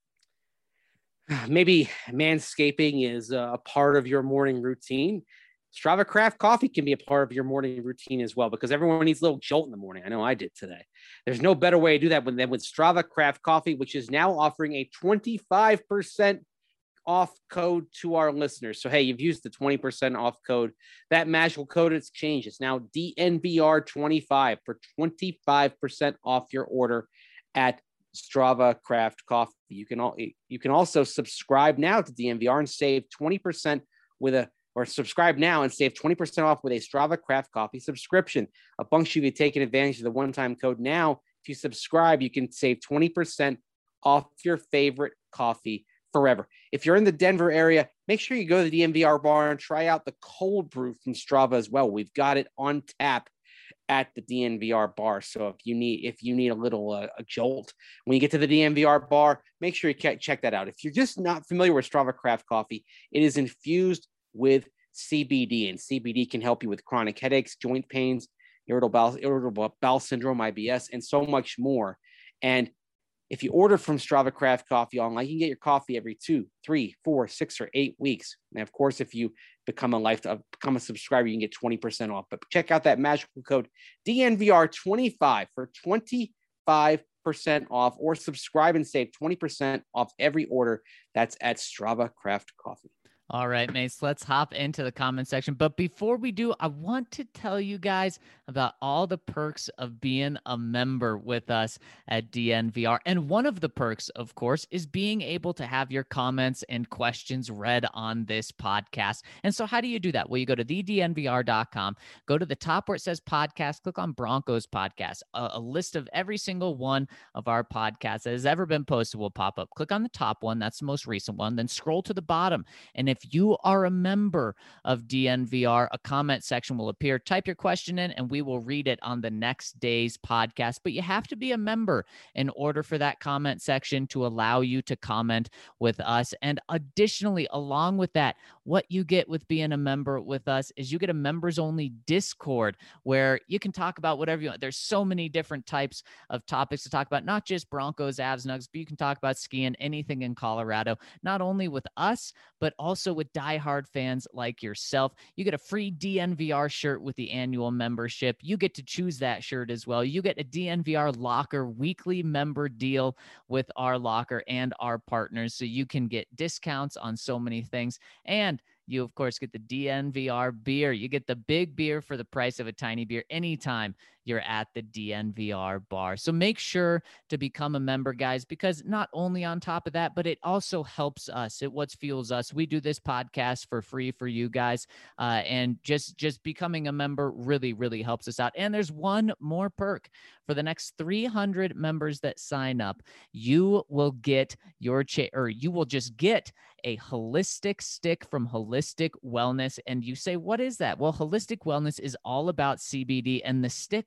C: Maybe manscaping is a part of your morning routine. Strava Craft Coffee can be a part of your morning routine as well, because everyone needs a little jolt in the morning. I know I did today. There's no better way to do that than with Strava Craft Coffee, which is now offering a twenty-five percent off code to our listeners. So, hey, you've used the twenty percent off code. That magical code has changed. It's now D N V R twenty-five for twenty-five percent off your order at Strava Craft Coffee. You can all you can also subscribe now to D N V R and save twenty percent with a or subscribe now and save twenty percent off with a Strava Craft Coffee subscription. A bunch of you taking advantage of the one-time code now. If you subscribe, you can save twenty percent off your favorite coffee forever. If you're in the Denver area, make sure you go to the D N V R bar and try out the cold brew from Strava as well. We've got it on tap at the D N V R bar. So if you need if you need a little uh, a jolt when you get to the D N V R bar, make sure you check that out. If you're just not familiar with Strava Craft Coffee, it is infused with C B D, and C B D can help you with chronic headaches, joint pains, irritable bowel, irritable bowel syndrome, I B S, and so much more. And if you order from Strava Craft Coffee online, you can get your coffee every two, three, four, six, or eight weeks. And of course, if you become a life, uh, become a subscriber, you can get twenty percent off. But check out that magical code D N V R twenty-five for twenty-five percent off, or subscribe and save twenty percent off every order. That's at Strava Craft Coffee.
A: All right, Mace, let's hop into the comment section. But before we do, I want to tell you guys about all the perks of being a member with us at D N V R. And one of the perks, of course, is being able to have your comments and questions read on this podcast. And so how do you do that? Well, you go to the D N V R dot com, go to the top where it says podcast, click on Broncos podcast. A, a list of every single one of our podcasts that has ever been posted will pop up. Click on the top one. That's the most recent one. Then scroll to the bottom. And if you are a member of D N V R, a comment section will appear. Type your question in and we will read it on the next day's podcast. But you have to be a member in order for that comment section to allow you to comment with us. And additionally, along with that, what you get with being a member with us is you get a members only Discord where you can talk about whatever you want. There's so many different types of topics to talk about, not just Broncos, Avs, Nugs, but you can talk about skiing, anything in Colorado, not only with us, but also with diehard fans like yourself. You get a free D N V R shirt with the annual membership. You get to choose that shirt as well. You get a D N V R locker weekly member deal with our locker and our partners, so you can get discounts on so many things. And you, of course, get the D N V R beer. You get the big beer for the price of a tiny beer anytime you're at the D N V R bar. So make sure to become a member, guys, because not only on top of that, but it also helps us. It what fuels us. We do this podcast for free for you guys, uh, and just, just becoming a member really, really helps us out. And there's one more perk. For the next three hundred members that sign up, you will get your cha- or you will just get a holistic stick from Holistic Wellness. And you say, what is that? Well, Holistic Wellness is all about C B D, and the stick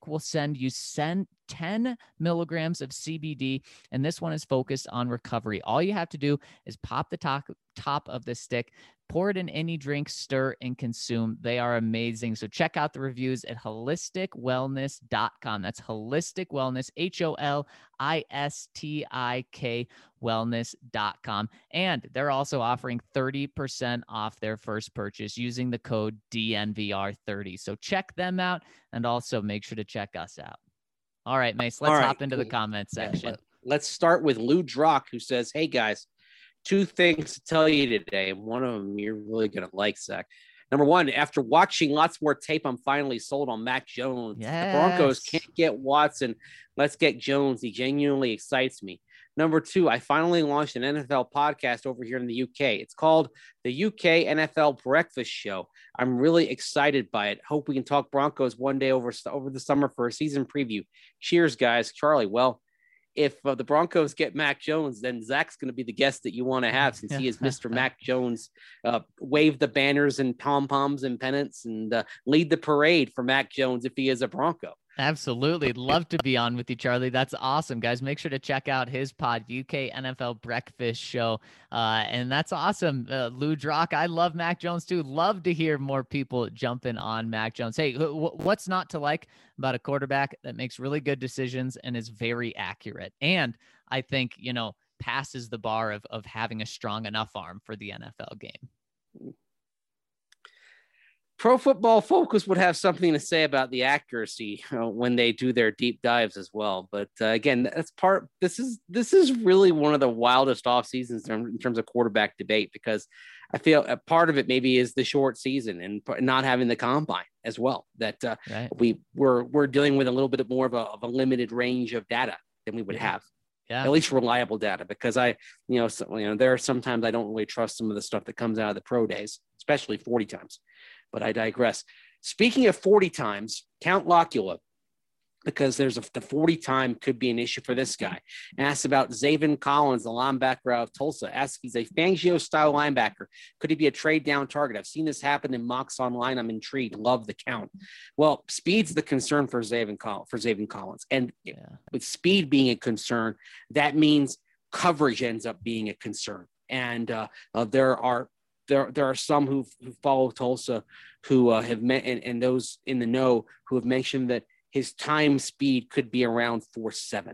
A: will send you send ten milligrams of C B D, and this one is focused on recovery. All you have to do is pop the top, top of the stick, pour it in any drink, stir, and consume. They are amazing. So check out the reviews at holistic wellness dot com. That's Holistic Wellness, H O L I S T I K wellness dot com. And they're also offering thirty percent off their first purchase using the code D N V R thirty. So check them out, and also make sure to check us out. All right, Mace, let's
C: All right,
A: hop into
C: cool.
A: the comment section.
C: Yeah, let's start with Lou Drock, who says, hey, guys, two things to tell you today. One of them you're really going to like, Zach. Number one, after watching lots more tape, I'm finally sold on Mac Jones.
A: Yes.
C: The Broncos can't get Watson. Let's get Jones. He genuinely excites me. Number two, I finally launched an N F L podcast over here in the U K. It's called the U K N F L Breakfast Show. I'm really excited by it. Hope we can talk Broncos one day over, over the summer for a season preview. Cheers, guys. Charlie, well, if uh, the Broncos get Mac Jones, then Zach's going to be the guest that you want to have, since he is Mister Mac Jones. Uh, wave the banners and pom-poms and pennants, and uh, lead the parade for Mac Jones if he is a Bronco.
A: Absolutely. Love to be on with you, Charlie. That's awesome, guys. Make sure to check out his pod, U K N F L Breakfast Show. Uh, and that's awesome. Uh, Lou Drock, I love Mac Jones too. Love to hear more people jumping on Mac Jones. Hey, w- what's not to like about a quarterback that makes really good decisions and is very accurate? And I think, you know, passes the bar of, of having a strong enough arm for the N F L game.
C: Pro Football Focus would have something to say about the accuracy uh, when they do their deep dives as well. But uh, again, that's part. This is this is really one of the wildest off seasons in terms of quarterback debate, because I feel a part of it maybe is the short season and not having the combine as well. That uh,
A: right.
C: we we're we're dealing with a little bit more of a, of a limited range of data than we would
A: yeah.
C: have.
A: Yeah.
C: At least reliable data, because I, you know, so, you know, there are sometimes I don't really trust some of the stuff that comes out of the pro days, especially forty times. But I digress. Speaking of forty times, Count Locula, because there's a the forty time could be an issue for this guy. Asks about Zaven Collins, the linebacker out of Tulsa. Asks if he's a Fangio style linebacker. Could he be a trade down target? I've seen this happen in mocks online. I'm intrigued. Love the count. Well, speed's the concern for Zaven Collins, for Zaven Collins. And yeah. with speed being a concern, that means coverage ends up being a concern. And uh, uh, there are There, there are some who who follow Tulsa who uh, have met, and, and those in the know who have mentioned that his time speed could be around four seven.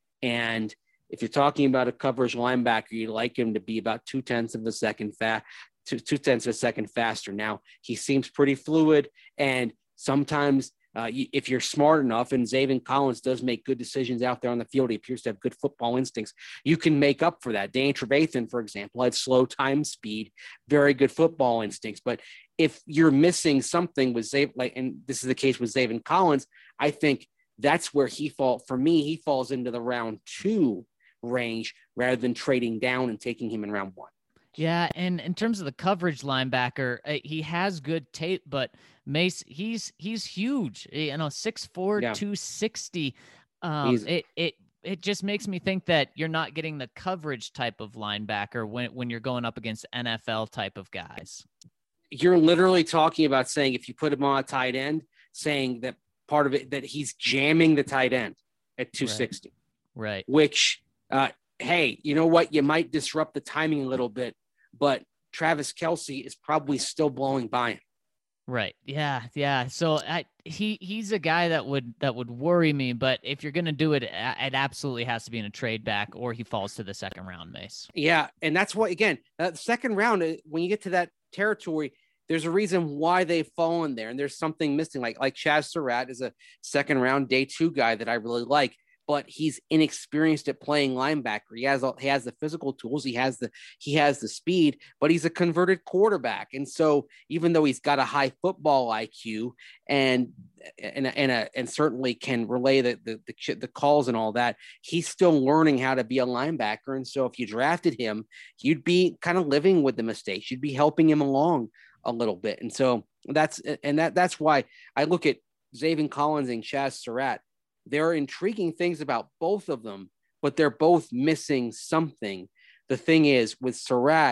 C: And if you're talking about a coverage linebacker, you'd like him to be about two tenths of a second fast, two, two tenths of a second faster. Now, he seems pretty fluid, and sometimes uh, if you're smart enough, and Zaven Collins does make good decisions out there on the field, he appears to have good football instincts, you can make up for that. Dane Trevathan, for example, had slow time speed, very good football instincts. But if you're missing something with Zaven, like, and this is the case with Zaven Collins, I think that's where he fall. For me, he falls into the round two range rather than trading down and taking him in round one.
A: Yeah, and in terms of the coverage linebacker, uh, he has good tape, but Mace, he's he's huge. You know, six four,
C: yeah.
A: two sixty. Um, it it it just makes me think that you're not getting the coverage type of linebacker when when you're going up against N F L type of guys.
C: You're literally talking about saying, if you put him on a tight end, saying that part of it that he's jamming the tight end at two sixty.
A: Right. right.
C: Which, uh, hey, you know what? You might disrupt the timing a little bit, but Travis Kelce is probably still blowing by him.
A: Right. Yeah. Yeah. So I, he, he's a guy that would, that would worry me, but if you're going to do it, it absolutely has to be in a trade back, or he falls to the second round, Mace.
C: Yeah. And that's what, again, uh, the second round, when you get to that territory, there's a reason why they've fallen there. And there's something missing. Like, like Chaz Surratt is a second round day two guy that I really like, but he's inexperienced at playing linebacker. He has, he has the physical tools. He has the, he has the speed, but he's a converted quarterback. And so even though he's got a high football I Q and, and, and, a, and certainly can relay the, the, the, the calls and all that, he's still learning how to be a linebacker. And so if you drafted him, you'd be kind of living with the mistakes. You'd be helping him along a little bit. And so that's, and that, that's why I look at Zaven Collins and Chaz Surratt. There are intriguing things about both of them, but they're both missing something. The thing is, with Surratt,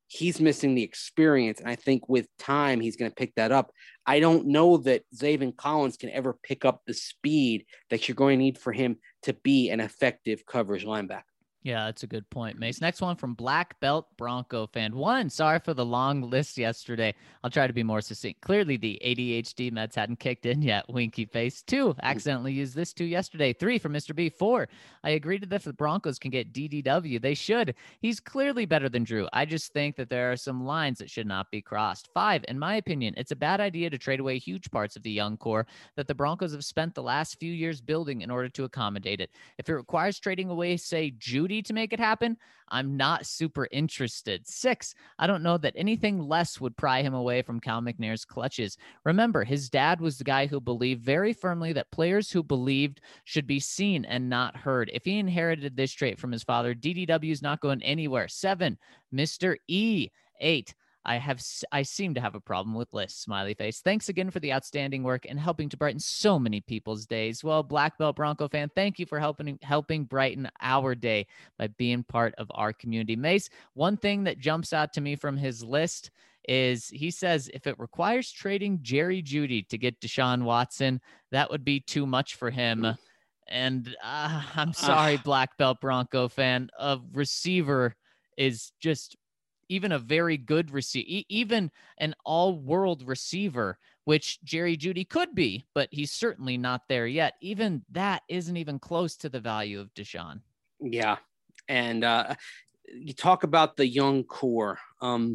C: he's missing the experience. And I think with time, he's going to pick that up. I don't know that Zaven Collins can ever pick up the speed that you're going to need for him to be an effective coverage linebacker.
A: Yeah, that's a good point, Mace. Next one from Black Belt Bronco fan. One, sorry for the long list yesterday. I'll try to be more succinct. Clearly, the A D H D meds hadn't kicked in yet. Winky face. Two, accidentally used this two yesterday. Three from Mister B. Four, I agreed that if the Broncos can get D D W, they should. He's clearly better than Drew. I just think that there are some lines that should not be crossed. Five, in my opinion, it's a bad idea to trade away huge parts of the young core that the Broncos have spent the last few years building in order to accommodate it. If it requires trading away, say, Judy to make it happen, I'm not super interested. Six, I don't know that anything less would pry him away from Cal McNair's clutches. Remember, his dad was the guy who believed very firmly that players who believed should be seen and not heard. If he inherited this trait from his father, D D W is not going anywhere. Seven, Mister E. Eight, I have I seem to have a problem with lists, smiley face. Thanks again for the outstanding work and helping to brighten so many people's days. Well, Black Belt Bronco fan, thank you for helping helping brighten our day by being part of our community. Mace, one thing that jumps out to me from his list is he says if it requires trading Jerry Jeudy to get Deshaun Watson, that would be too much for him. And uh, I'm sorry, Black Belt Bronco fan, a receiver is just even a very good receiver, even an all-world receiver, which Jerry Jeudy could be, but he's certainly not there yet. Even that isn't even close to the value of Deshaun.
C: Yeah. And uh, you talk about the young core. Um,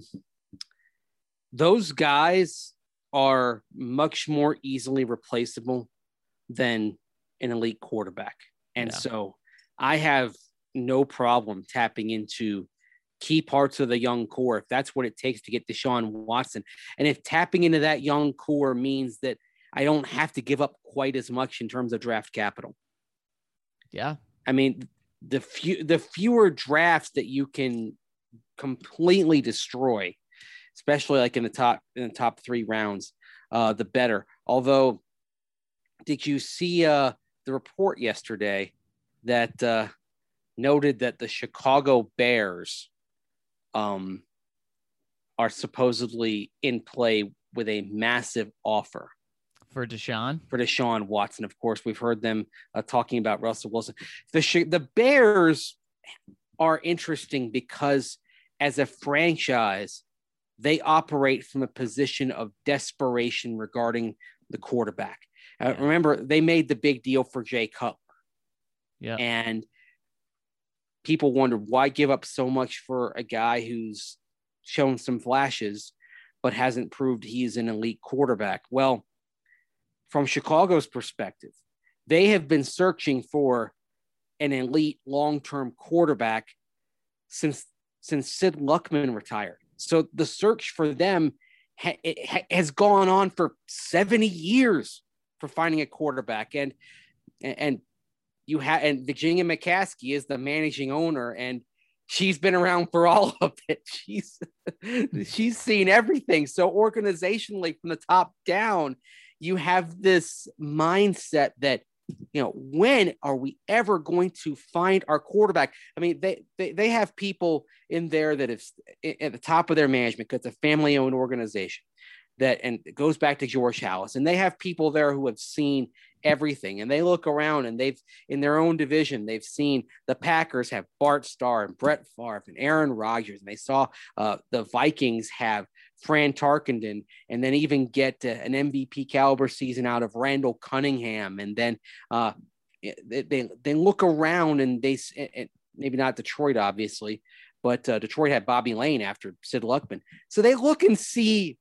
C: those guys are much more easily replaceable than an elite quarterback. And yeah. so I have no problem tapping into key parts of the young core if that's what it takes to get Deshaun Watson. And if tapping into that young core means that I don't have to give up quite as much in terms of draft capital.
A: Yeah.
C: I mean, the few, the fewer drafts that you can completely destroy, especially like in the top, in the top three rounds, uh, the better. Although, did you see uh, the report yesterday that uh, noted that the Chicago Bears um, are supposedly in play with a massive offer
A: for Deshaun,
C: for Deshaun Watson? Of course, we've heard them uh, talking about Russell Wilson. The, the Bears are interesting because as a franchise, they operate from a position of desperation regarding the quarterback. Uh, yeah. Remember, they made the big deal for Jay Cutler.
A: Yeah.
C: And people wondered why give up so much for a guy who's shown some flashes, but hasn't proved he's an elite quarterback. Well, from Chicago's perspective, they have been searching for an elite long-term quarterback since, since Sid Luckman retired. So the search for them ha- it ha- has gone on for seventy years for finding a quarterback. And, and, You have and Virginia McCaskey is the managing owner, and she's been around for all of it. She's she's seen everything. So organizationally, from the top down, you have this mindset that, you know, when are we ever going to find our quarterback? I mean, they they, they have people in there that is at the top of their management because it's a family-owned organization. That and it goes back to George Halas, and they have people there who have seen everything, and they look around and they've in their own division, they've seen the Packers have Bart Starr and Brett Favre and Aaron Rodgers, and they saw uh, the Vikings have Fran Tarkenton, and then even get uh, an M V P caliber season out of Randall Cunningham, and then uh, they, they they look around and they and maybe not Detroit obviously, but uh, Detroit had Bobby Lane after Sid Luckman, so they look and see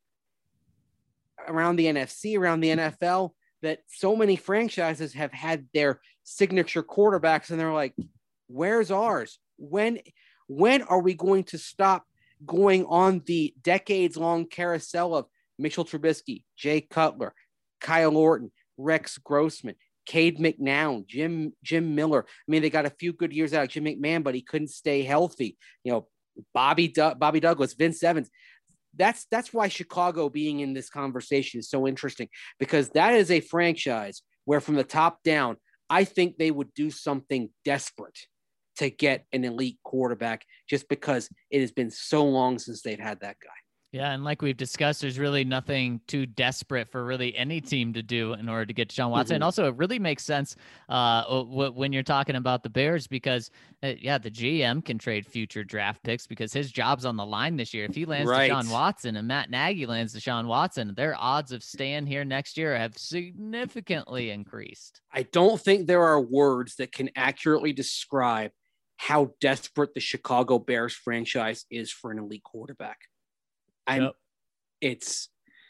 C: around the N F C, around the N F L, that so many franchises have had their signature quarterbacks, and they're like, where's ours? When, when are we going to stop going on the decades-long carousel of Mitchell Trubisky, Jay Cutler, Kyle Orton, Rex Grossman, Cade McNown, Jim, Jim Miller? I mean, they got a few good years out of Jim McMahon, but he couldn't stay healthy. You know, Bobby, du- Bobby Douglas, Vince Evans. That's that's why Chicago being in this conversation is so interesting, because that is a franchise where from the top down, I think they would do something desperate to get an elite quarterback just because it has been so long since they've had that guy.
A: Yeah, and like we've discussed, there's really nothing too desperate for really any team to do in order to get Deshaun Watson. Mm-hmm. And also, it really makes sense uh, w- when you're talking about the Bears because, uh, yeah, the G M can trade future draft picks because his job's on the line this year. If he lands right. Deshaun Watson and Matt Nagy lands Deshaun Watson, their odds of staying here next year have significantly increased.
C: I don't think there are words that can accurately describe how desperate the Chicago Bears franchise is for an elite quarterback. I'm, yep. it's,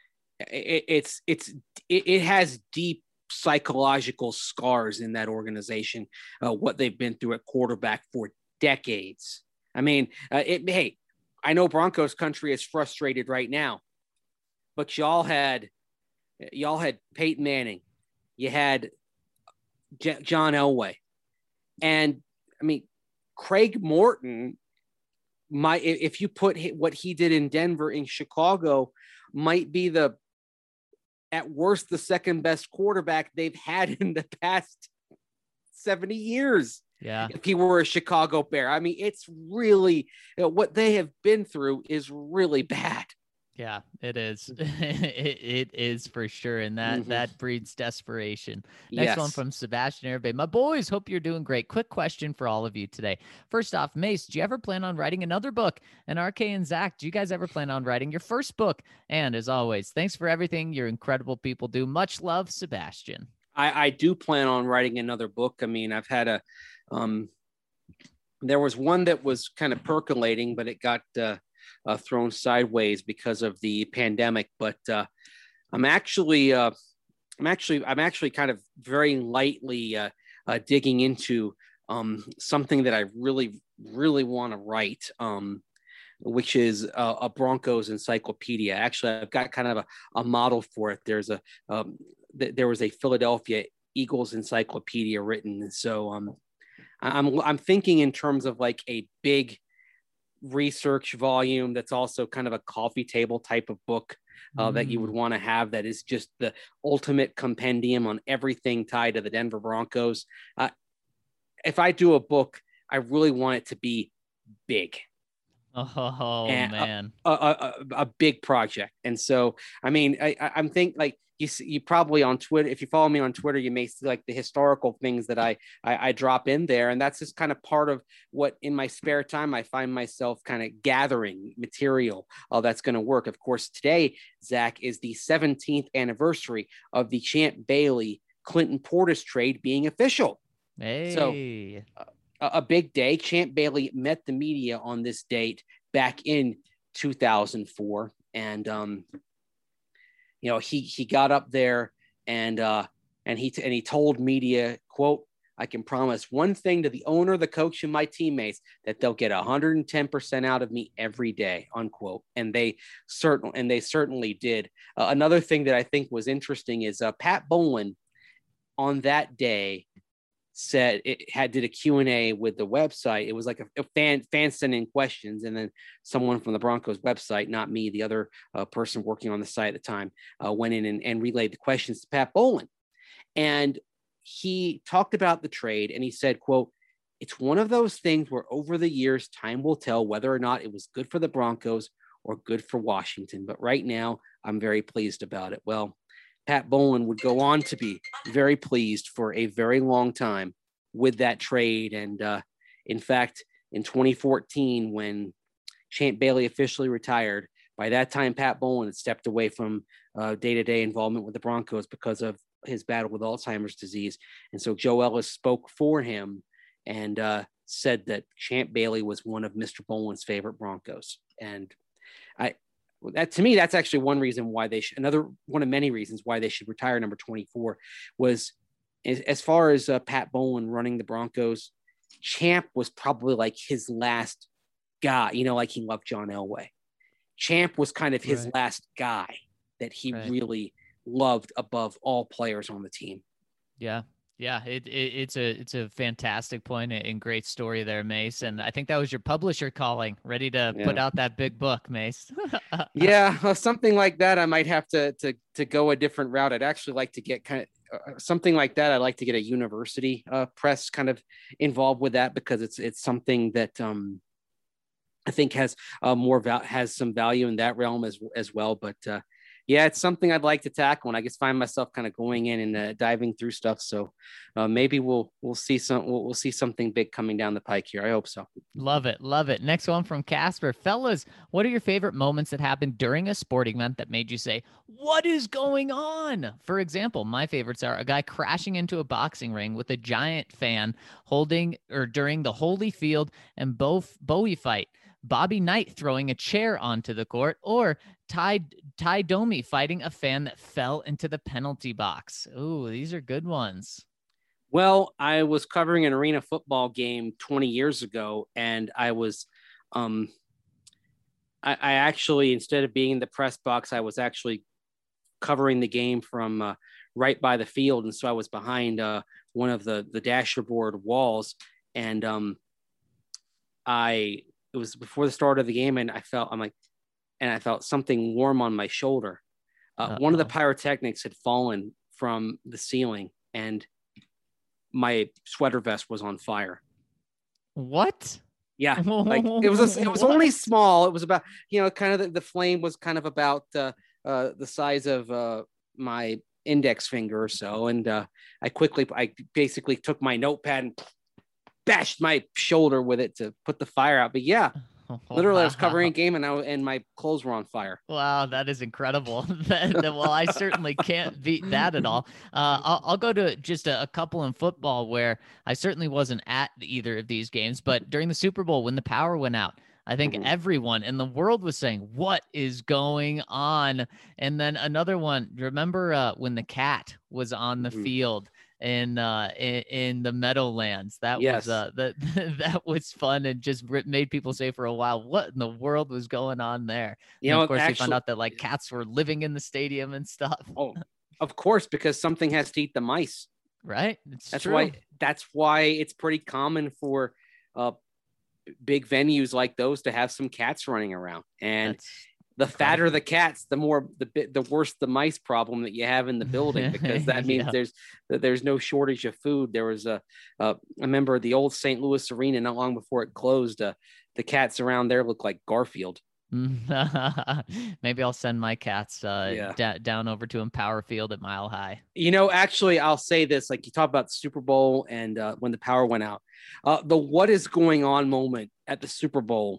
C: it, it's, it's, it, it has deep psychological scars in that organization, uh, what they've been through at quarterback for decades. I mean, uh, it, hey, I know Broncos country is frustrated right now, but y'all had, y'all had Peyton Manning, you had J- John Elway, and I mean, Craig Morton, My, if you put what he did in Denver in Chicago, might be the, at worst, the second best quarterback they've had in the past seventy years.
A: Yeah.
C: If he were a Chicago Bear. I mean, it's really, you know, what they have been through is really bad.
A: Yeah, it is. it, it is for sure. And that, mm-hmm. that breeds desperation. Next
C: yes.
A: one from Sebastian Herbe. My boys, hope you're doing great. Quick question for all of you today. First off, Mace, do you ever plan on writing another book? And R K and Zach, do you guys ever plan on writing your first book? And as always, thanks for everything your incredible people do. Much love, Sebastian.
C: I, I do plan on writing another book. I mean, I've had a, um, there was one that was kind of percolating, but it got, uh, Uh, thrown sideways because of the pandemic, but uh, I'm actually, uh, I'm actually, I'm actually kind of very lightly uh, uh, digging into um, something that I really, really want to write, um, which is a, a Broncos encyclopedia. Actually, I've got kind of a, a model for it. There's a, um, th- there was a Philadelphia Eagles encyclopedia written, so um, I'm, I'm thinking in terms of like a big research volume that's also kind of a coffee table type of book uh, mm. that you would want to have, that is just the ultimate compendium on everything tied to the Denver Broncos. Uh, if I do a book, I really want it to be big.
A: Oh, man.
C: A, a, a, a big project. And so, I mean, I, I'm think like you, you probably on Twitter, if you follow me on Twitter, you may see like the historical things that I, I, I drop in there. And that's just kind of part of what in my spare time, I find myself kind of gathering material uh, that's going to work. Of course, today, Zach, is the seventeenth anniversary of the Champ Bailey Clinton Portis trade being official.
A: Hey.
C: So, uh, a big day. Champ Bailey met the media on this date back in two thousand four. And, um, you know, he, he got up there and, uh, and he, t- and he told media, quote, "I can promise one thing to the owner, the coach, and my teammates, that they'll get one hundred ten percent out of me every day," unquote. And they certainly, and they certainly did. Uh, another thing that I think was interesting is uh, Pat Bowlen on that day said it had did a Q and A with the website. It was like a, a fan fan sending questions, and then someone from the Broncos website, not me, the other uh, person working on the site at the time, uh, went in and, and relayed the questions to Pat Bowlen. And he talked about the trade, and he said, quote, "It's one of those things where over the years, time will tell whether or not it was good for the Broncos or good for Washington. But right now, I'm very pleased about it." Well, Pat Bowlen would go on to be very pleased for a very long time with that trade. And uh, in fact, in twenty fourteen, when Champ Bailey officially retired, by that time, Pat Bowlen had stepped away from uh, day-to-day involvement with the Broncos because of his battle with Alzheimer's disease. And so Joe Ellis spoke for him and uh, said that Champ Bailey was one of Mister Bowlen's favorite Broncos. And I, That to me, that's actually one reason why they should, another one of many reasons why they should retire number twenty-four was as, as far as uh, Pat Bowlen running the Broncos, Champ was probably like his last guy, you know, like he loved John Elway. Champ was kind of his right. last guy that he right. really loved above all players on the team.
A: Yeah. Yeah, it, it it's a it's a fantastic point and great story there, Mace. And I think that was your publisher calling, ready to yeah. put out that big book, Mace.
C: yeah, well, something like that. I might have to to to go a different route. I'd actually like to get kind of uh, something like that. I like to get a university uh, press kind of involved with that because it's it's something that um, I think has uh, more val- has some value in that realm as as well. But uh, yeah, it's something I'd like to tackle, and I just find myself kind of going in and uh, diving through stuff. So uh, maybe we'll we'll see some we'll, we'll see something big coming down the pike here. I hope so.
A: Love it, love it. Next one from Casper. Fellas, what are your favorite moments that happened during a sporting event that made you say, "What is going on?" For example, my favorites are a guy crashing into a boxing ring with a giant fan holding or during the Holyfield and Bo- Bowie fight. Bobby Knight throwing a chair onto the court, or Ty Ty Domi fighting a fan that fell into the penalty box. Ooh, these are good ones.
C: Well, I was covering an arena football game twenty years ago, and I was, um, I, I actually, instead of being in the press box, I was actually covering the game from uh, right by the field, and so I was behind uh, one of the the dashboard walls, and um, I. It was before the start of the game, and I felt I'm like, and I felt something warm on my shoulder. Uh, one of the pyrotechnics had fallen from the ceiling, and my sweater vest was on fire.
A: What?
C: Yeah, like it was. A, it was only small. It was about you know, kind of the, the flame was kind of about uh, uh, the size of uh, my index finger or so, and uh, I quickly, I basically took my notepad and bashed my shoulder with it to put the fire out. But yeah, literally, wow. I was covering a game and I and my clothes were on fire.
A: Wow, that is incredible. that, that, well, I certainly can't beat that at all. Uh, I'll, I'll go to just a, a couple in football where I certainly wasn't at either of these games, but during the Super Bowl when the power went out, I think mm-hmm. everyone in the world was saying, "What is going on?" And then another one. Remember uh, when the cat was on the mm-hmm. field? In uh in, in the Meadowlands, that yes. was uh that that was fun and just made people say for a while, what in the world was going on there? You and know, of course, actually, we found out that like cats were living in the stadium and stuff.
C: Oh, of course, because something has to eat the mice,
A: right? It's
C: that's
A: true.
C: why. That's why it's pretty common for uh big venues like those to have some cats running around, and. That's- The fatter the cats, the more the bit the worse the mice problem that you have in the building, because that means yeah. there's there's no shortage of food. There was a, a I remember the old Saint Louis Arena not long before it closed. Uh, the cats around there look like Garfield.
A: Maybe I'll send my cats uh, yeah. d- down over to Empower Field at Mile High.
C: You know, actually, I'll say this: like you talk about the Super Bowl and uh, when the power went out, uh, the what is going on moment at the Super Bowl.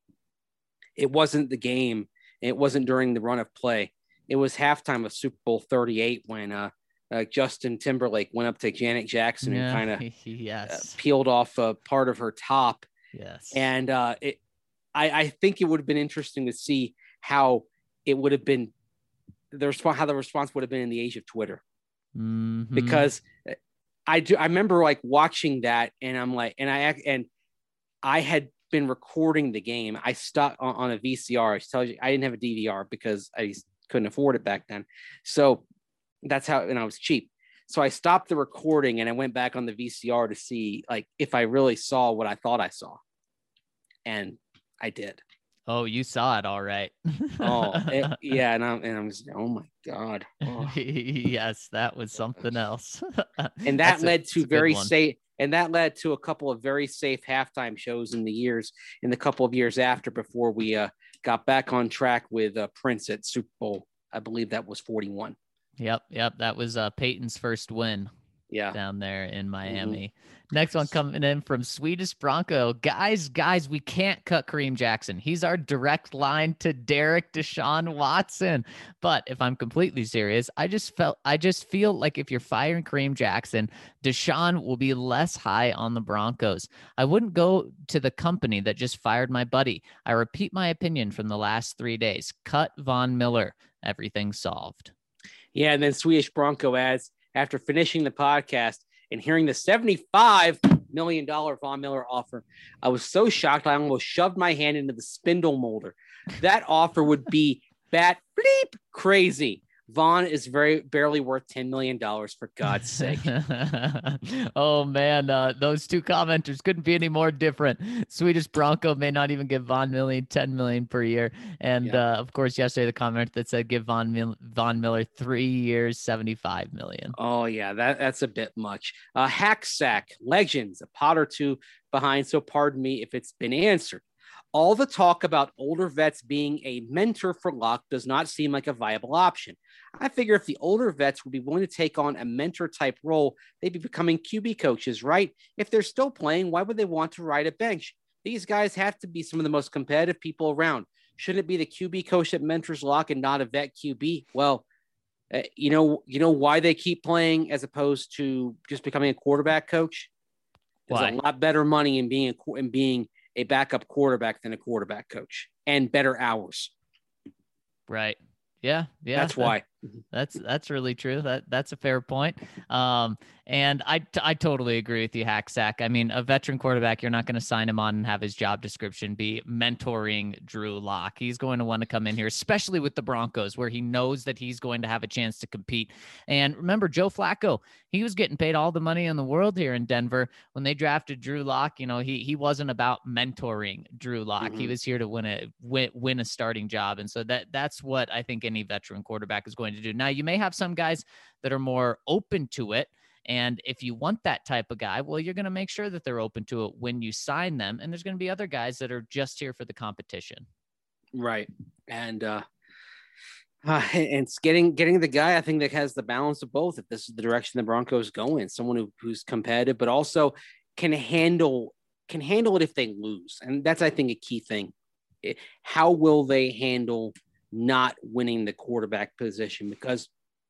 C: It wasn't the game. It wasn't during the run of play. It was halftime of Super Bowl thirty-eight when uh, uh, Justin Timberlake went up to Janet Jackson yeah, and kind of
A: yes.
C: uh, peeled off a part of her top.
A: Yes.
C: And uh, it, I, I think it would have been interesting to see how it would have been the response, how the response would have been in the age of Twitter,
A: mm-hmm.
C: because I do. I remember like watching that, and I'm like, and I and I had. been recording the game. I stopped on, on a V C R. I tell you, I didn't have a D V R because I couldn't afford it back then. So that's how, and I was cheap. So I stopped the recording and I went back on the V C R to see like if I really saw what I thought I saw. And I did.
A: Oh, you saw it. All right.
C: oh it, yeah. And I'm, and I'm just, oh my God. Oh.
A: Yes, that was something else.
C: And that led a, to very safe, And that led to a couple of very safe halftime shows in the years, in the couple of years after, before we uh, got back on track with uh, Prince at Super Bowl. I believe that was forty-one.
A: Yep, yep. That was uh, Peyton's first win.
C: Yeah,
A: down there in Miami. Mm-hmm. Next one coming in from Swedish Bronco. Guys, guys, we can't cut Kareem Jackson. He's our direct line to Derek Deshaun Watson. But if I'm completely serious, I just felt I just feel like if you're firing Kareem Jackson, Deshaun will be less high on the Broncos. I wouldn't go to the company that just fired my buddy. I repeat my opinion from the last three days. Cut Von Miller. Everything's solved.
C: Yeah, and then Swedish Bronco adds, after finishing the podcast and hearing the seventy-five million dollars Von Miller offer, I was so shocked I almost shoved my hand into the spindle molder. That offer would be bat bleep crazy. Vaughn is very barely worth ten million dollars, for God's sake.
A: Oh, man. Uh, those two commenters couldn't be any more different. Swedish Bronco may not even give Von Miller ten million dollars per year. And, yeah. uh, of course, yesterday, the comment that said give Von, Mil- Von Miller three years, seventy-five million dollars.
C: Oh, yeah, that, that's a bit much. Uh, Hack Sack, Legends, a pot or two behind, so pardon me if it's been answered. All the talk about older vets being a mentor for Locke does not seem like a viable option. I figure if the older vets would be willing to take on a mentor type role, they'd be becoming Q B coaches, right? If they're still playing, why would they want to ride a bench? These guys have to be some of the most competitive people around. Shouldn't it be the Q B coach that mentors Locke and not a vet Q B? Well, uh, you know, you know why they keep playing as opposed to just becoming a quarterback coach? There's why? a lot better money in being a, in being a backup quarterback than a quarterback coach, and better hours.
A: Right. Yeah. Yeah.
C: That's why.
A: That's, that's really true. That that's a fair point. Um, and I, I totally agree with you, Hacksack. I mean, a veteran quarterback, you're not going to sign him on and have his job description be mentoring Drew Lock. He's going to want to come in here, especially with the Broncos, where he knows that he's going to have a chance to compete. And remember, Joe Flacco, he was getting paid all the money in the world here in Denver when they drafted Drew Lock. You know, he he wasn't about mentoring Drew Lock. Mm-hmm. He was here to win a win, win a starting job. And so that that's what I think any veteran quarterback is going to do. Now, you may have some guys that are more open to it. And if you want that type of guy, well, you're going to make sure that they're open to it when you sign them. And there's going to be other guys that are just here for the competition.
C: Right. And, uh, uh and it's getting, getting the guy, I think, that has the balance of both. If this is the direction the Broncos go in, someone who, who's competitive, but also can handle, can handle it if they lose. And that's, I think, a key thing. It, how will they handle not winning the quarterback position? Because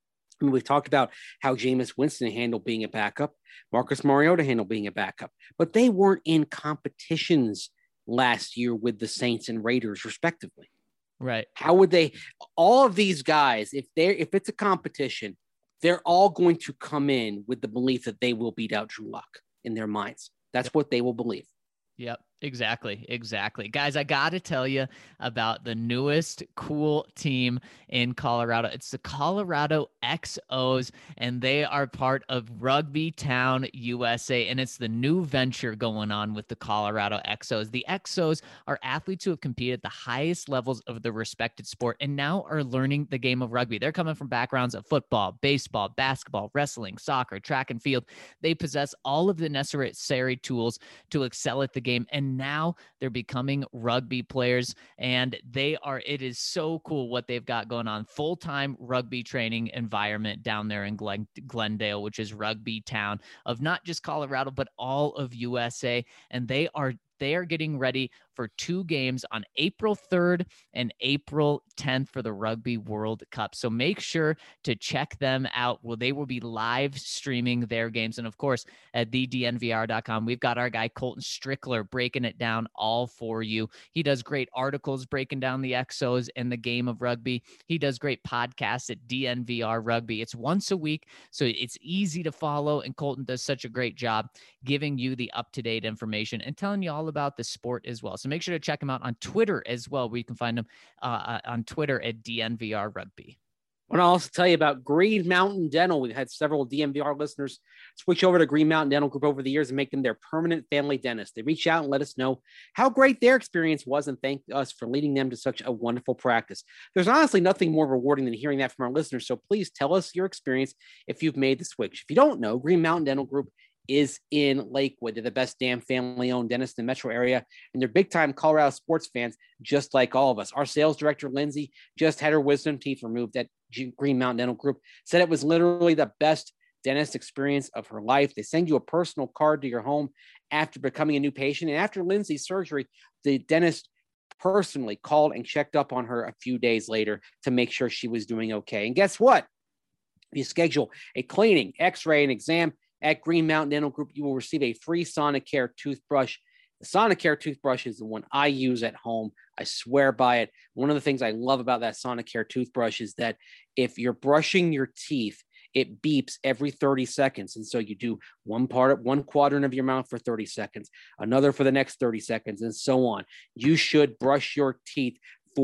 C: I mean, we've talked about how Jameis Winston handled being a backup, Marcus Mariota handled being a backup, but they weren't in competitions last year with the Saints and Raiders, respectively.
A: Right.
C: How would they, all of these guys, if they're, if it's a competition, they're all going to come in with the belief that they will beat out Drew Lock in their minds. That's yep. what they will believe.
A: Yep. Exactly. Exactly. Guys, I got to tell you about the newest cool team in Colorado. It's the Colorado X Os, and they are part of Rugby Town U S A, and it's the new venture going on with the Colorado X Os. The X Os are athletes who have competed at the highest levels of the respected sport and now are learning the game of rugby. They're coming from backgrounds of football, baseball, basketball, wrestling, soccer, track and field. They possess all of the necessary tools to excel at the game, and now they're becoming rugby players, and they are, it is so cool what they've got going on. Full-time rugby training environment down there in Glen, Glendale, which is Rugby Town of not just Colorado, but all of U S A. And they are They are getting ready for two games on April third and April tenth for the Rugby World Cup. So make sure to check them out. Well, they will be live streaming their games. And of course, at the D N V R dot com, we've got our guy Colton Strickler breaking it down all for you. He does great articles breaking down the X Os and the game of rugby. He does great podcasts at D N V R Rugby. It's once a week, so it's easy to follow. And Colton does such a great job giving you the up-to-date information and telling you all about the sport as well. So make sure to check him out on Twitter as well, where you can find him uh, on Twitter at D N V R Rugby.
C: I want to also tell you about Green Mountain Dental. We've had several D N V R listeners switch over to Green Mountain Dental Group over the years and make them their permanent family dentist. They reach out and let us know how great their experience was and thank us for leading them to such a wonderful practice. There's honestly nothing more rewarding than hearing that from our listeners, so please tell us your experience if you've made the switch. If you don't know, Green Mountain Dental Group is in Lakewood. They're the best damn family-owned dentist in the metro area, and they're big-time Colorado sports fans, just like all of us. Our sales director, Lindsay, just had her wisdom teeth removed at G- Green Mountain Dental Group, said it was literally the best dentist experience of her life. They send you a personal card to your home after becoming a new patient, and after Lindsay's surgery, the dentist personally called and checked up on her a few days later to make sure she was doing okay. And guess what? If you schedule a cleaning, x-ray, and exam at Green Mountain Dental Group, you will receive a free Sonicare toothbrush. The Sonicare toothbrush is the one I use at home. I swear by it. One of the things I love about that Sonicare toothbrush is that if you're brushing your teeth, it beeps every thirty seconds. And so you do one part, one quadrant of your mouth for thirty seconds, another for the next thirty seconds, and so on. You should brush your teeth for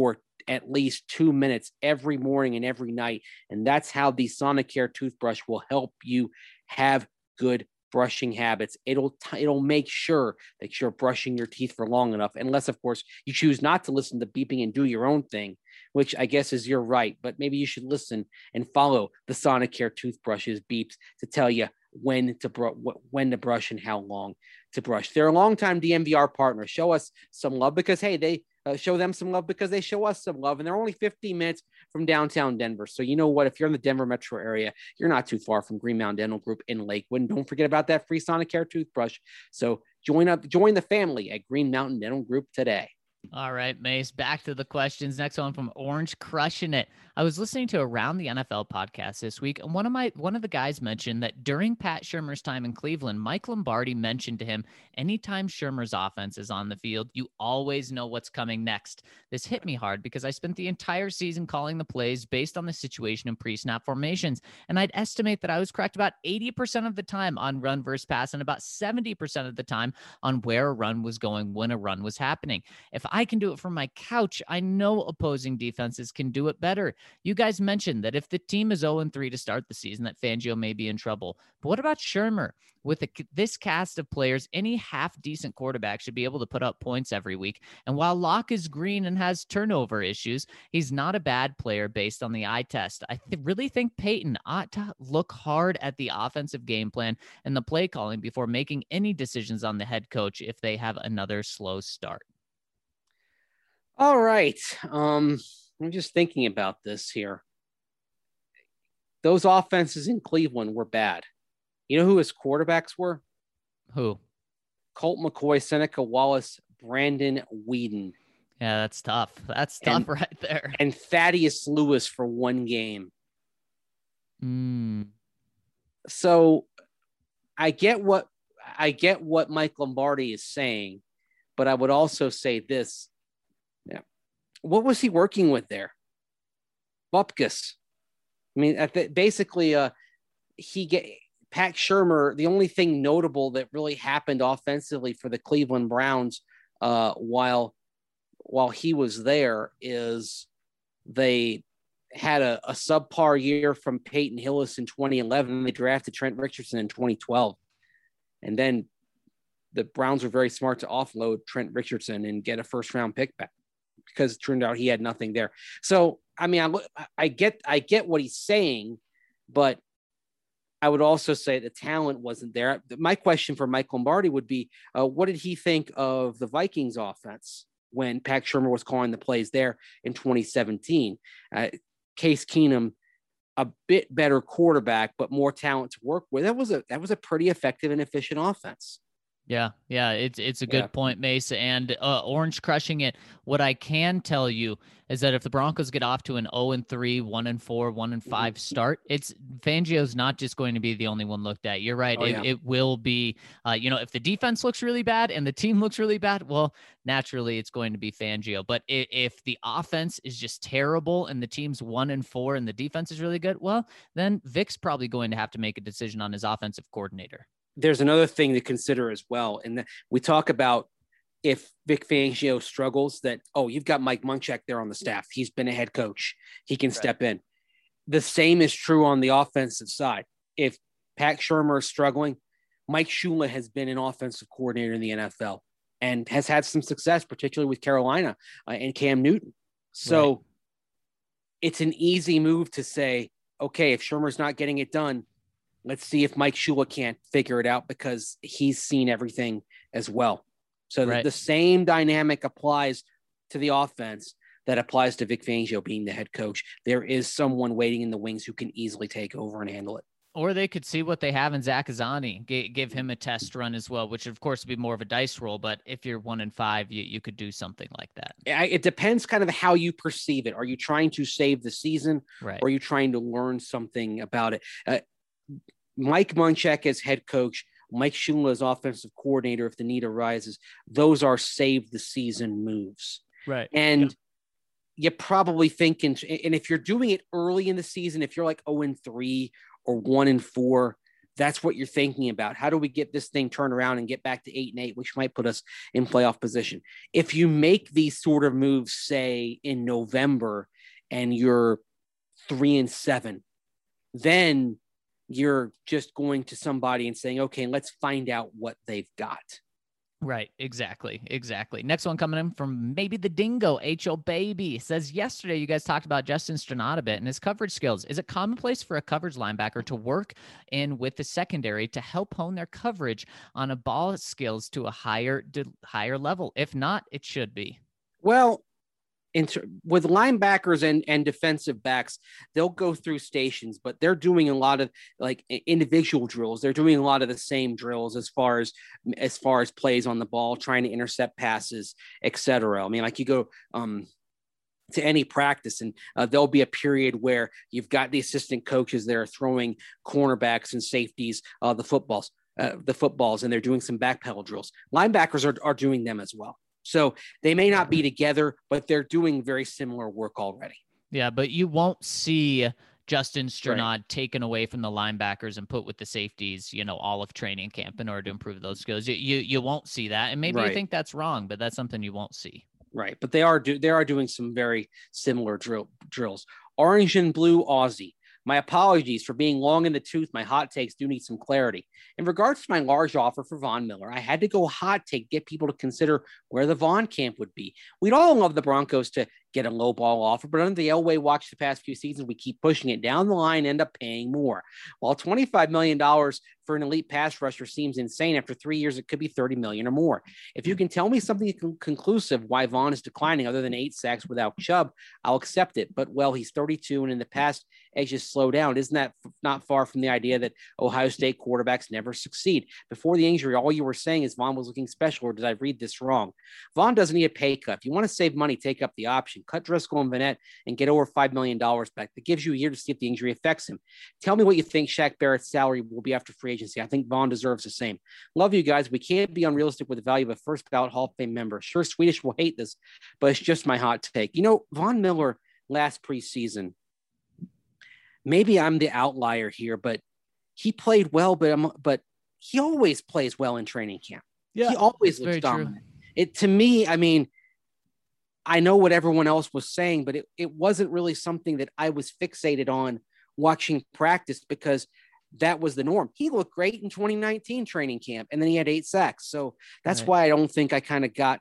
C: at least two minutes every morning and every night. And that's how the Sonicare toothbrush will help you have good brushing habits. It'll t- it'll make sure that you're brushing your teeth for long enough, unless, of course, you choose not to listen to beeping and do your own thing, which I guess is your right. But maybe you should listen and follow the Sonicare toothbrushes beeps to tell you when to br- when to brush and how long to brush. They're a longtime D N V R partner. Show us some love because, hey, they uh, show them some love because they show us some love. And they're only fifteen minutes from downtown Denver. So you know what? If you're in the Denver metro area, you're not too far from Green Mountain Dental Group in Lakewood. And don't forget about that free Sonicare toothbrush. So join up, join the family at Green Mountain Dental Group today.
A: All right, Mace, back to the questions. Next one from Orange Crushing It. I was listening to Around the N F L podcast this week, and one of my one of the guys mentioned that during Pat Shurmur's time in Cleveland, Mike Lombardi mentioned to him, anytime Shurmur's offense is on the field, you always know what's coming next. This hit me hard because I spent the entire season calling the plays based on the situation in pre-snap formations, and I'd estimate that I was correct about eighty percent of the time on run versus pass and about seventy percent of the time on where a run was going when a run was happening. If I can do it from my couch, I know opposing defenses can do it better. You guys mentioned that if the team is oh and three to start the season, that Fangio may be in trouble. But what about Shurmur? With a, this cast of players, any half-decent quarterback should be able to put up points every week. And while Locke is green and has turnover issues, he's not a bad player based on the eye test. I th- really think Peyton ought to look hard at the offensive game plan and the play calling before making any decisions on the head coach if they have another slow start.
C: All right. Um, I'm just thinking about this here. Those offenses in Cleveland were bad. You know who his quarterbacks were?
A: Who?
C: Colt McCoy, Seneca Wallace, Brandon Whedon.
A: Yeah, that's tough. That's tough
C: and,
A: right there.
C: And Thaddeus Lewis for one game.
A: Mm.
C: So I get what I get what Mike Lombardi is saying, but I would also say this. Yeah. What was he working with there? Bupkis. I mean, at the, basically, uh, he get Pat Shurmur. The only thing notable that really happened offensively for the Cleveland Browns uh, while while he was there is they had a, a subpar year from Peyton Hillis in twenty eleven. They drafted Trent Richardson in twenty twelve, and then the Browns were very smart to offload Trent Richardson and get a first round pick back, because it turned out he had nothing there. So, I mean, I, I get, I get what he's saying, but I would also say the talent wasn't there. My question for Mike Lombardi would be, uh, what did he think of the Vikings offense when Pat Shurmur was calling the plays there in twenty seventeen? Uh, Case Keenum, a bit better quarterback, but more talent to work with. That was a, that was a pretty effective and efficient offense.
A: Yeah, yeah, it's it's a good
C: yeah.
A: point, Mace. And uh, Orange Crushing It. What I can tell you is that if the Broncos get off to an oh and three, one and four, one and five start, it's Fangio's not just going to be the only one looked at. You're right.
C: Oh,
A: it,
C: yeah.
A: it will be, uh, you know, if the defense looks really bad and the team looks really bad, well, naturally it's going to be Fangio. But if, if the offense is just terrible and the team's one and four and the defense is really good, well, then Vic's probably going to have to make a decision on his offensive coordinator.
C: There's another thing to consider as well. And we talk about if Vic Fangio struggles, that, oh, you've got Mike Munchak there on the staff. He's been a head coach. He can right. step in. The same is true on the offensive side. If Pat Shurmur is struggling, Mike Shula has been an offensive coordinator in the N F L and has had some success, particularly with Carolina uh, and Cam Newton. So right. it's an easy move to say, okay, if Shurmur's not getting it done, let's see if Mike Shula can't figure it out, because he's seen everything as well. So right. the, the same dynamic applies to the offense that applies to Vic Fangio being the head coach. There is someone waiting in the wings who can easily take over and handle it.
A: Or they could see what they have in Zach Azzanni, G- give him a test run as well, which of course would be more of a dice roll. But if you're one and five, you, you could do something like that.
C: It depends kind of how you perceive it. Are you trying to save the season?
A: Right.
C: Or are you trying to learn something about it? Uh, Mike Munchak as head coach, Mike Shula as offensive coordinator, if the need arises, those are save the season moves.
A: Right.
C: And
A: yeah.
C: you're probably thinking, and if you're doing it early in the season, if you're like oh and three or one and four, that's what you're thinking about. How do we get this thing turned around and get back to eight and eight, which might put us in playoff position? If you make these sort of moves, say in November, and you're three and seven, then you're just going to somebody and saying, okay, let's find out what they've got.
A: Right. Exactly. Exactly. Next one coming in from maybe the Dingo. H O Baby says, yesterday you guys talked about Justin Stronach a bit and his coverage skills. Is it commonplace for a coverage linebacker to work in with the secondary to help hone their coverage on a ball skills to a higher, higher level? If not, it should be.
C: Well, Inter- with linebackers and, and defensive backs, they'll go through stations, but they're doing a lot of like individual drills. They're doing a lot of the same drills as far as as far as plays on the ball, trying to intercept passes, et cetera. I mean, like you go um, to any practice and uh, there'll be a period where you've got the assistant coaches there throwing cornerbacks and safeties, uh, the footballs, uh, the footballs, and they're doing some backpedal drills. Linebackers are, are doing them as well. So they may not be together, but they're doing very similar work already.
A: Yeah, but you won't see Justin Stronach
C: Right.
A: taken away from the linebackers and put with the safeties, you know, all of training camp in order to improve those skills. You you, you won't see that. And maybe
C: Right.
A: you think that's wrong, but that's something you won't see.
C: Right. But they are do they are doing some very similar drill drills. Orange and blue Aussie. My apologies for being long in the tooth. My hot takes do need some clarity. In regards to my large offer for Von Miller, I had to go hot take, get people to consider where the Von camp would be. We'd all love the Broncos to get a low ball offer, but under the Elway watch the past few seasons, we keep pushing it down the line, end up paying more. While twenty-five million dollars for an elite pass rusher seems insane, after three years, it could be thirty million dollars or more. If you can tell me something con- conclusive why Von is declining other than eight sacks without Chubb, I'll accept it. But, well, he's thirty-two, and in the past, edges slow down. Isn't that f- not far from the idea that Ohio State quarterbacks never succeed? Before the injury, all you were saying is Von was looking special, or did I read this wrong? Von doesn't need a pay cut. If you want to save money, take up the option. Cut Driscoll and Vanette and get over five million dollars back. That gives you a year to see if the injury affects him. Tell me what you think Shaq Barrett's salary will be after free agency. I think Von deserves the same. Love you guys. We can't be unrealistic with the value of a first ballot Hall of Fame member. Sure, Swedish will hate this, but it's just my hot take. You know, Von Miller last preseason, maybe I'm the outlier here, but he played well, but I'm, but he always plays well in training camp.
A: Yeah,
C: he always looks dominant. It to me, I mean, I know what everyone else was saying, but it, it wasn't really something that I was fixated on watching practice because that was the norm. He looked great in twenty nineteen training camp, and then he had eight sacks. So that's
A: Right.
C: why I don't think I kind of got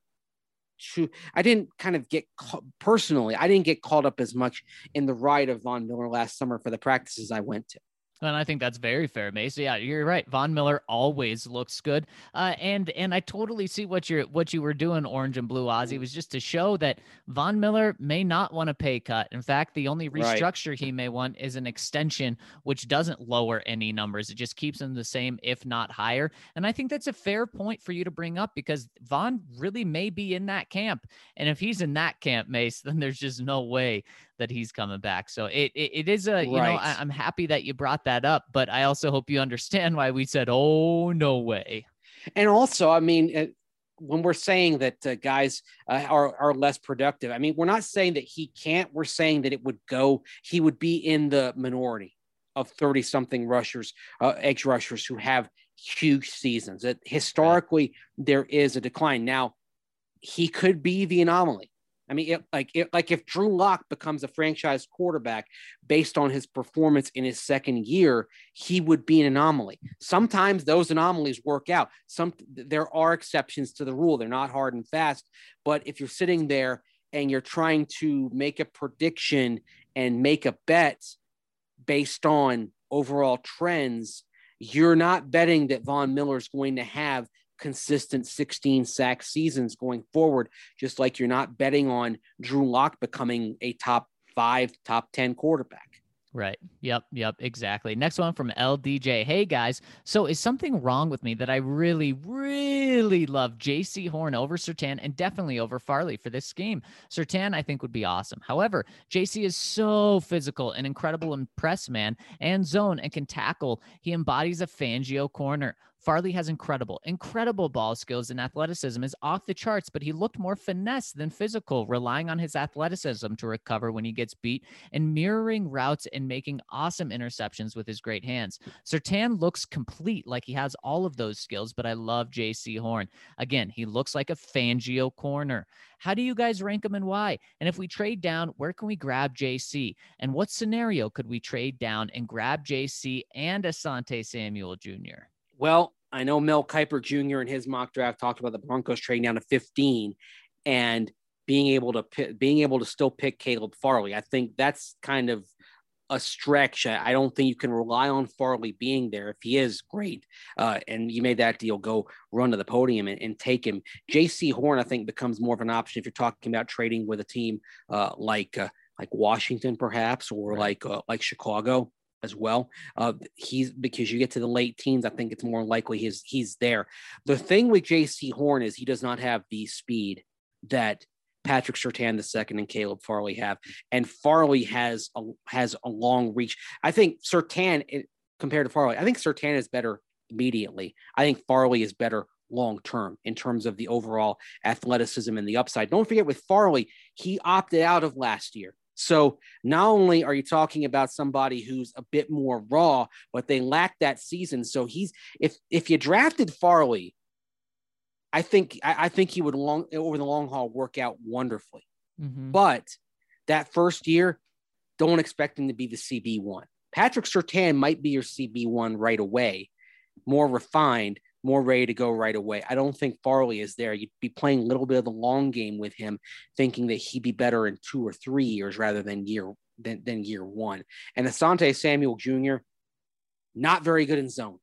C: to, I didn't kind of get personally, I didn't get caught up as much in the ride of Von Miller last summer for the practices I went to.
A: And I think that's very fair, Mace. Yeah, you're right. Von Miller always looks good, uh, and and I totally see what you're what you were doing, Orange and Blue Ozzy, was just to show that Von Miller may not want a pay cut. In fact, the only
C: Right.
A: restructure he may want is an extension, which doesn't lower any numbers. It just keeps them the same, if not higher. And I think that's a fair point for you to bring up because Von really may be in that camp, and if he's in that camp, Mace, then there's just no way that he's coming back. So it it, it is a, you know,
C: Right.
A: I, I'm happy that you brought that up, but I also hope you understand why we said, oh, no way.
C: And also, I mean, uh, when we're saying that uh, guys uh, are, are less productive, I mean, we're not saying that he can't, we're saying that it would go, he would be in the minority of thirty something rushers, uh, edge rushers who have huge seasons. That historically there is a decline. Now he could be the anomaly. I mean, it, like it, like if Drew Lock becomes a franchise quarterback based on his performance in his second year, he would be an anomaly. Sometimes those anomalies work out. Some there are exceptions to the rule. They're not hard and fast. But if you're sitting there and you're trying to make a prediction and make a bet based on overall trends, you're not betting that Von Miller is going to have consistent sixteen sack seasons going forward, just like you're not betting on Drew Lock becoming a top five, top ten quarterback.
A: Right. Yep. Yep. Exactly. Next one from L D J. Hey guys. So is something wrong with me that I really, really love J C Horn over Surtain and definitely over Farley for this game? Surtain, I think, would be awesome. However, J C is so physical and incredible in press man and zone and can tackle. He embodies a Fangio corner. Farley has incredible, incredible ball skills, and athleticism is off the charts, but he looked more finesse than physical, relying on his athleticism to recover when he gets beat and mirroring routes and making awesome interceptions with his great hands. Surtain looks complete, like he has all of those skills, but I love J C Horn. Again, he looks like a Fangio corner. How do you guys rank him and why? And if we trade down, where can we grab J C? And what scenario could we trade down and grab J C and Asante Samuel Junior?
C: Well, I know Mel Kiper Junior in his mock draft talked about the Broncos trading down to fifteen and being able to pick, being able to still pick Caleb Farley. I think that's kind of a stretch. I don't think you can rely on Farley being there. If he is, great. Uh, and you made that deal, go run to the podium and, and take him. J C Horn, I think, becomes more of an option if you're talking about trading with a team uh, like uh, like Washington, perhaps, or right. like uh, like Chicago as well. Uh, he's because you get to the late teens, I think it's more likely he's he's there. The thing with J C Horn is he does not have the speed that Patrick Surtain the second and Caleb Farley have, and Farley has a has a long reach. I think Surtain compared to Farley, I think Surtain is better immediately. I think Farley is better long term in terms of the overall athleticism and the upside. Don't forget with Farley, he opted out of last year. So not only are you talking about somebody who's a bit more raw, but they lack that season. So he's if if you drafted Farley, I think I, I think he would long over the long haul work out wonderfully. Mm-hmm. But that first year, don't expect him to be the C B one. Patrick Surtain might be your C B one right away, more refined, more ready to go right away. I don't think Farley is there. You'd be playing a little bit of the long game with him, thinking that he'd be better in two or three years rather than year than, than year one. And Asante Samuel Junior, not very good in zone.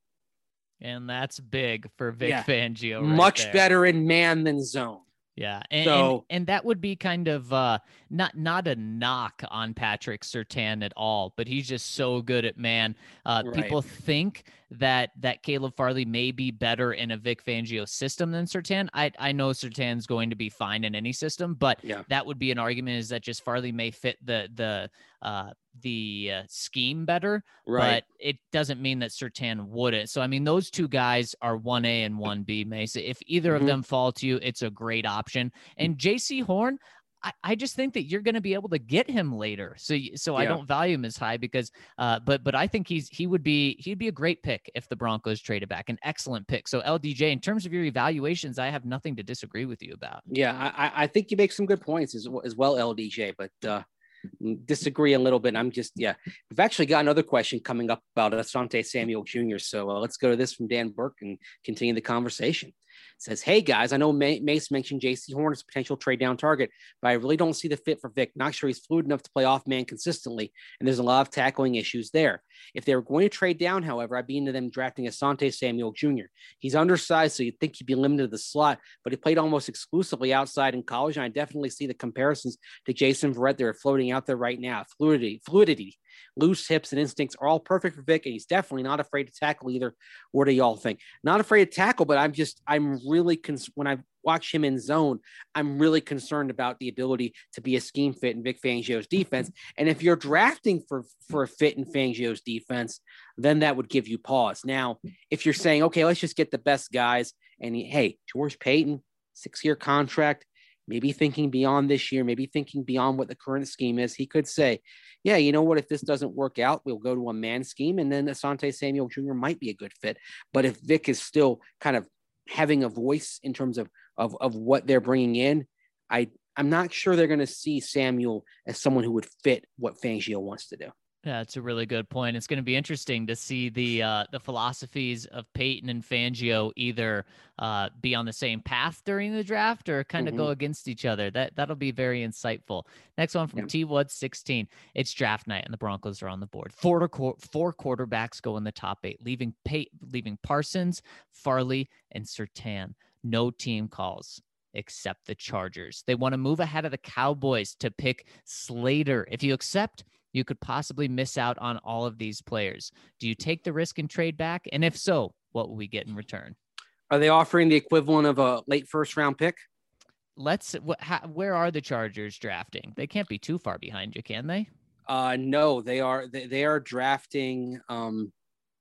A: And that's big for Vic yeah. Fangio. Right
C: Much
A: there.
C: better in man than zone.
A: Yeah. And,
C: so,
A: and, and that would be kind of uh, not not a knock on Patrick Surtain at all, but he's just so good at man. Uh, right. People think that that Caleb Farley may be better in a Vic Fangio system than Surtain. I, I know Surtain's going to be fine in any system, but yeah. that would be an argument is that just Farley may fit the the uh, the uh, scheme better, right. but it doesn't mean that Surtain wouldn't. So, I mean, those two guys are one A and one B, Mesa. If either mm-hmm. of them fall to you, it's a great option. And J C Horn, I, I just think that you're going to be able to get him later. So, so yeah. I don't value him as high because, uh, but, but I think he's, he would be, he'd be a great pick if the Broncos traded back, an excellent pick. So L D J, in terms of your evaluations, I have nothing to disagree with you about.
C: Yeah. I, I think you make some good points as, as well, L D J, but, uh, disagree a little bit. I'm just, yeah, we've actually got another question coming up about Asante Samuel Junior So uh, let's go to this from Dan Burke and continue the conversation. It says, hey guys, I know Mace mentioned J C Horn as a potential trade down target, but I really don't see the fit for Vic. Not sure he's fluid enough to play off man consistently, and there's a lot of tackling issues there. If they were going to trade down, however, I'd be into them drafting Asante Samuel Junior He's undersized, so you'd think he'd be limited to the slot, but he played almost exclusively outside in college, and I definitely see the comparisons to Jason Verrett that are floating out there right now. Fluidity, fluidity, loose hips and instincts are all perfect for Vic, and he's definitely not afraid to tackle either. What do y'all think? Not afraid to tackle, but I'm just, I'm really, cons- when I watch him in zone, I'm really concerned about the ability to be a scheme fit in Vic Fangio's defense. And if you're drafting for, for a fit in Fangio's defense, then that would give you pause. Now, if you're saying, okay, let's just get the best guys, and he, hey, George Paton, six-year contract, maybe thinking beyond this year, maybe thinking beyond what the current scheme is, he could say, yeah, you know what, if this doesn't work out, we'll go to a man scheme, and then Asante Samuel Junior might be a good fit. But if Vic is still kind of having a voice in terms of, of, of what they're bringing in, I, I'm not sure they're going to see Samuel as someone who would fit what Fangio wants to do.
A: Yeah, it's a really good point. It's going to be interesting to see the uh, the philosophies of Peyton and Fangio either uh, be on the same path during the draft or kind of mm-hmm. go against each other. That that'll be very insightful. Next one from yeah. T Wood sixteen. It's draft night and the Broncos are on the board. Four four quarterbacks go in the top eight, leaving Pey- leaving Parsons, Farley, and Surtain. No team calls except the Chargers. They want to move ahead of the Cowboys to pick Slater. If you accept, you could possibly miss out on all of these players. Do you take the risk and trade back? And if so, what will we get in return?
C: Are they offering the equivalent of a late first round pick?
A: Let's, wh- how, where are the Chargers drafting? They can't be too far behind you, can they?
C: Uh, no, they are, they, they are drafting. Um,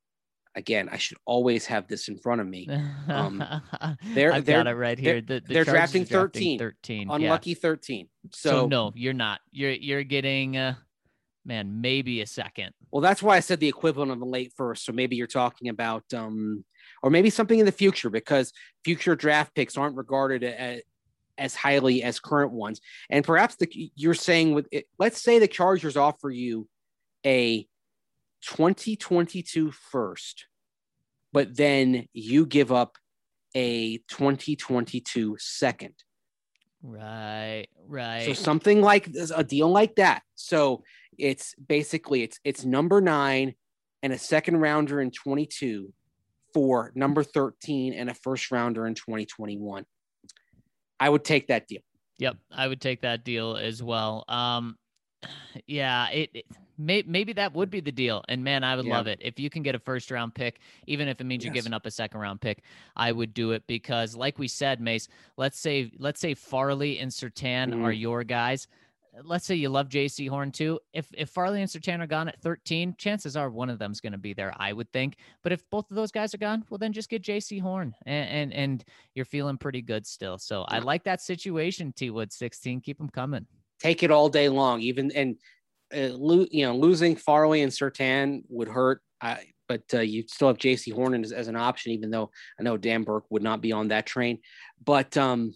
C: again, I should always have this in front of me. Um,
A: they're, I've they're, got it right here.
C: They're,
A: the, the
C: they're drafting thirteen,
A: thirteen.
C: Unlucky
A: yeah.
C: thirteen. So,
A: so no, you're not. You're you're getting, uh, man, maybe a second.
C: Well, that's why I said the equivalent of a late first. So maybe you're talking about, um, or maybe something in the future, because future draft picks aren't regarded as, as highly as current ones. And perhaps the, you're saying with it, let's say the Chargers offer you a twenty twenty-two first, but then you give up a twenty twenty-two second.
A: Right, right.
C: So something like this, a deal like that. So it's basically it's it's number nine and a second rounder in twenty-two for number thirteen and a first rounder in twenty twenty-one. I would take that deal.
A: Yep, I would take that deal as well. Um, yeah, it, it may, maybe that would be the deal. And man, I would yeah. love it if you can get a first round pick, even if it means yes. you're giving up a second round pick. I would do it because, like we said, Mace, let's say let's say Farley and Surtain mm. are your guys. Let's say you love J C Horn too. If if Farley and Surtain are gone at thirteen, chances are one of them's going to be there, I would think. But if both of those guys are gone, well, then just get J C Horn, and and, and you're feeling pretty good still. So I like that situation, T Wood sixteen. Keep them coming.
C: Take it all day long. Even and uh, lo- you know losing Farley and Surtain would hurt. I, but uh, you still have J C Horn as, as an option, even though I know Dan Burke would not be on that train. But um.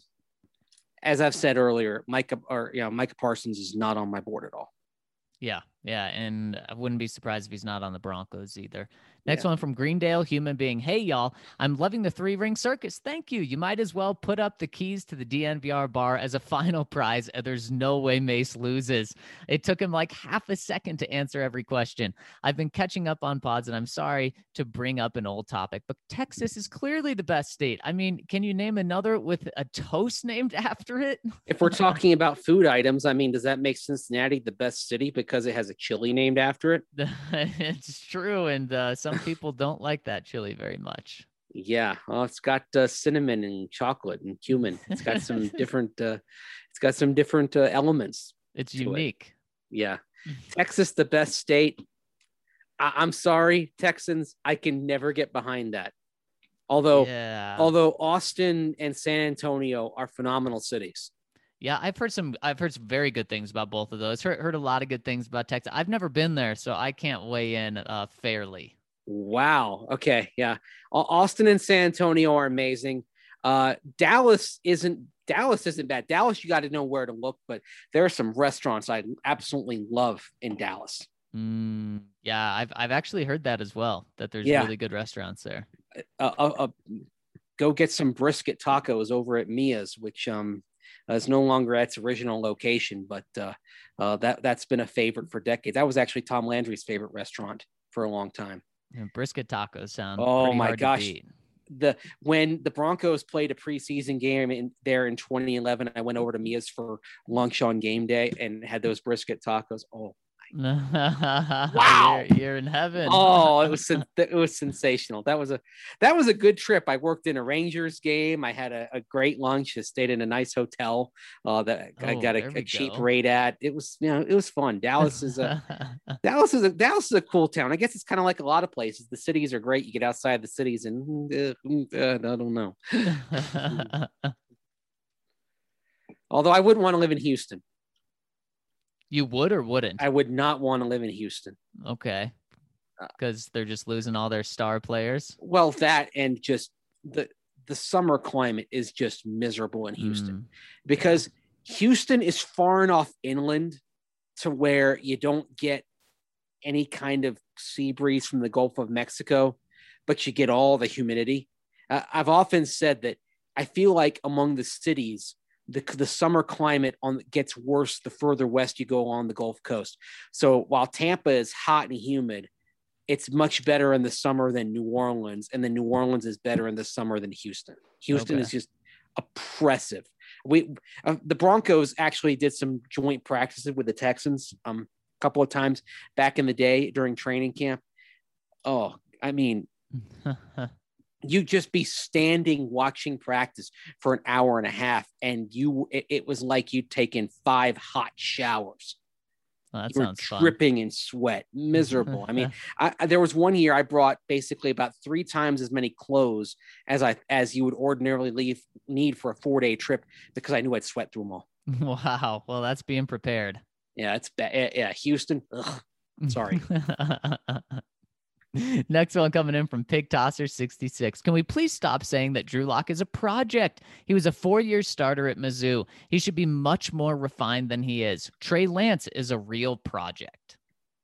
C: As I've said earlier, Micah or you know Micah Parsons is not on my board at all.
A: Yeah, yeah, and I wouldn't be surprised if he's not on the Broncos either. Next
C: yeah.
A: one from Greendale, human being. Hey, y'all, I'm loving the three-ring circus. Thank you. You might as well put up the keys to the D N V R bar as a final prize. There's no way Mace loses. It took him like half a second to answer every question. I've been catching up on pods, and I'm sorry to bring up an old topic, but Texas is clearly the best state. I mean, can you name another with a toast named after it?
C: If we're talking about food items, I mean, does that make Cincinnati the best city because it has a chili named after it?
A: It's true, and uh, some people don't like that chili very much.
C: Yeah, well, it's got uh, cinnamon and chocolate and cumin. It's got some different. Uh, it's got some different uh, elements.
A: It's unique.
C: It. Yeah, Texas, the best state. I- I'm sorry, Texans. I can never get behind that. Although, yeah. although Austin and San Antonio are phenomenal cities.
A: Yeah, I've heard some. I've heard some very good things about both of those. Heard heard a lot of good things about Texas. I've never been there, so I can't weigh in uh, fairly.
C: Wow. Okay. Yeah. Austin and San Antonio are amazing. Uh, Dallas isn't. Dallas isn't bad. Dallas, you got to know where to look, but there are some restaurants I absolutely love in Dallas.
A: Mm, yeah, I've I've actually heard that as well. That there's yeah. really good restaurants there.
C: Uh, uh, uh, go get some brisket tacos over at Mia's, which um. Uh, it's no longer at its original location, but uh, uh, that, that's been a favorite for decades. That was actually Tom Landry's favorite restaurant for a long time.
A: And brisket tacos sound
C: oh
A: pretty
C: my
A: hard
C: gosh.
A: to beat.
C: The when the Broncos played a preseason game in there in twenty eleven, I went over to Mia's for lunch on game day and had those brisket tacos. Oh,
A: wow, you're, you're in heaven.
C: Oh, it was it was sensational. That was a that was a good trip. I worked in a Rangers game. I had a, a great lunch. I stayed in a nice hotel uh, that oh, I got a, a cheap go. rate at. It was you know it was fun. Dallas is a Dallas is a Dallas is a cool town. I guess it's kind of like a lot of places. The cities are great. You get outside the cities and uh, uh, I don't know. Although I wouldn't want to live in Houston.
A: You would or wouldn't?
C: I would not want to live in Houston.
A: Okay. Because they're just losing all their star players?
C: Well, that and just the the summer climate is just miserable in Houston. Mm. Because Houston is far enough inland to where you don't get any kind of sea breeze from the Gulf of Mexico, but you get all the humidity. Uh, I've often said that I feel like among the cities, The, the summer climate on gets worse the further west you go on the Gulf Coast. So while Tampa is hot and humid, it's much better in the summer than New Orleans, and then New Orleans is better in the summer than Houston. Houston okay. is just oppressive. We uh, the Broncos actually did some joint practices with the Texans um, a couple of times back in the day during training camp. Oh, I mean. You just be standing watching practice for an hour and a half, and you it, it was like you'd taken five hot showers.
A: Well, that
C: You were
A: sounds fun.
C: dripping in sweat, miserable. I mean, I, I, there was one year I brought basically about three times as many clothes as I as you would ordinarily leave need for a four day trip because I knew I'd sweat through them all.
A: Wow. Well, that's being prepared.
C: Yeah, it's bad. Yeah, Houston. Ugh. Sorry.
A: Next one coming in from Pig Tosser sixty-six. Can we please stop saying that Drew Lock is a project? He was a four-year starter at Mizzou. He should be much more refined than he is. Trey Lance is a real project.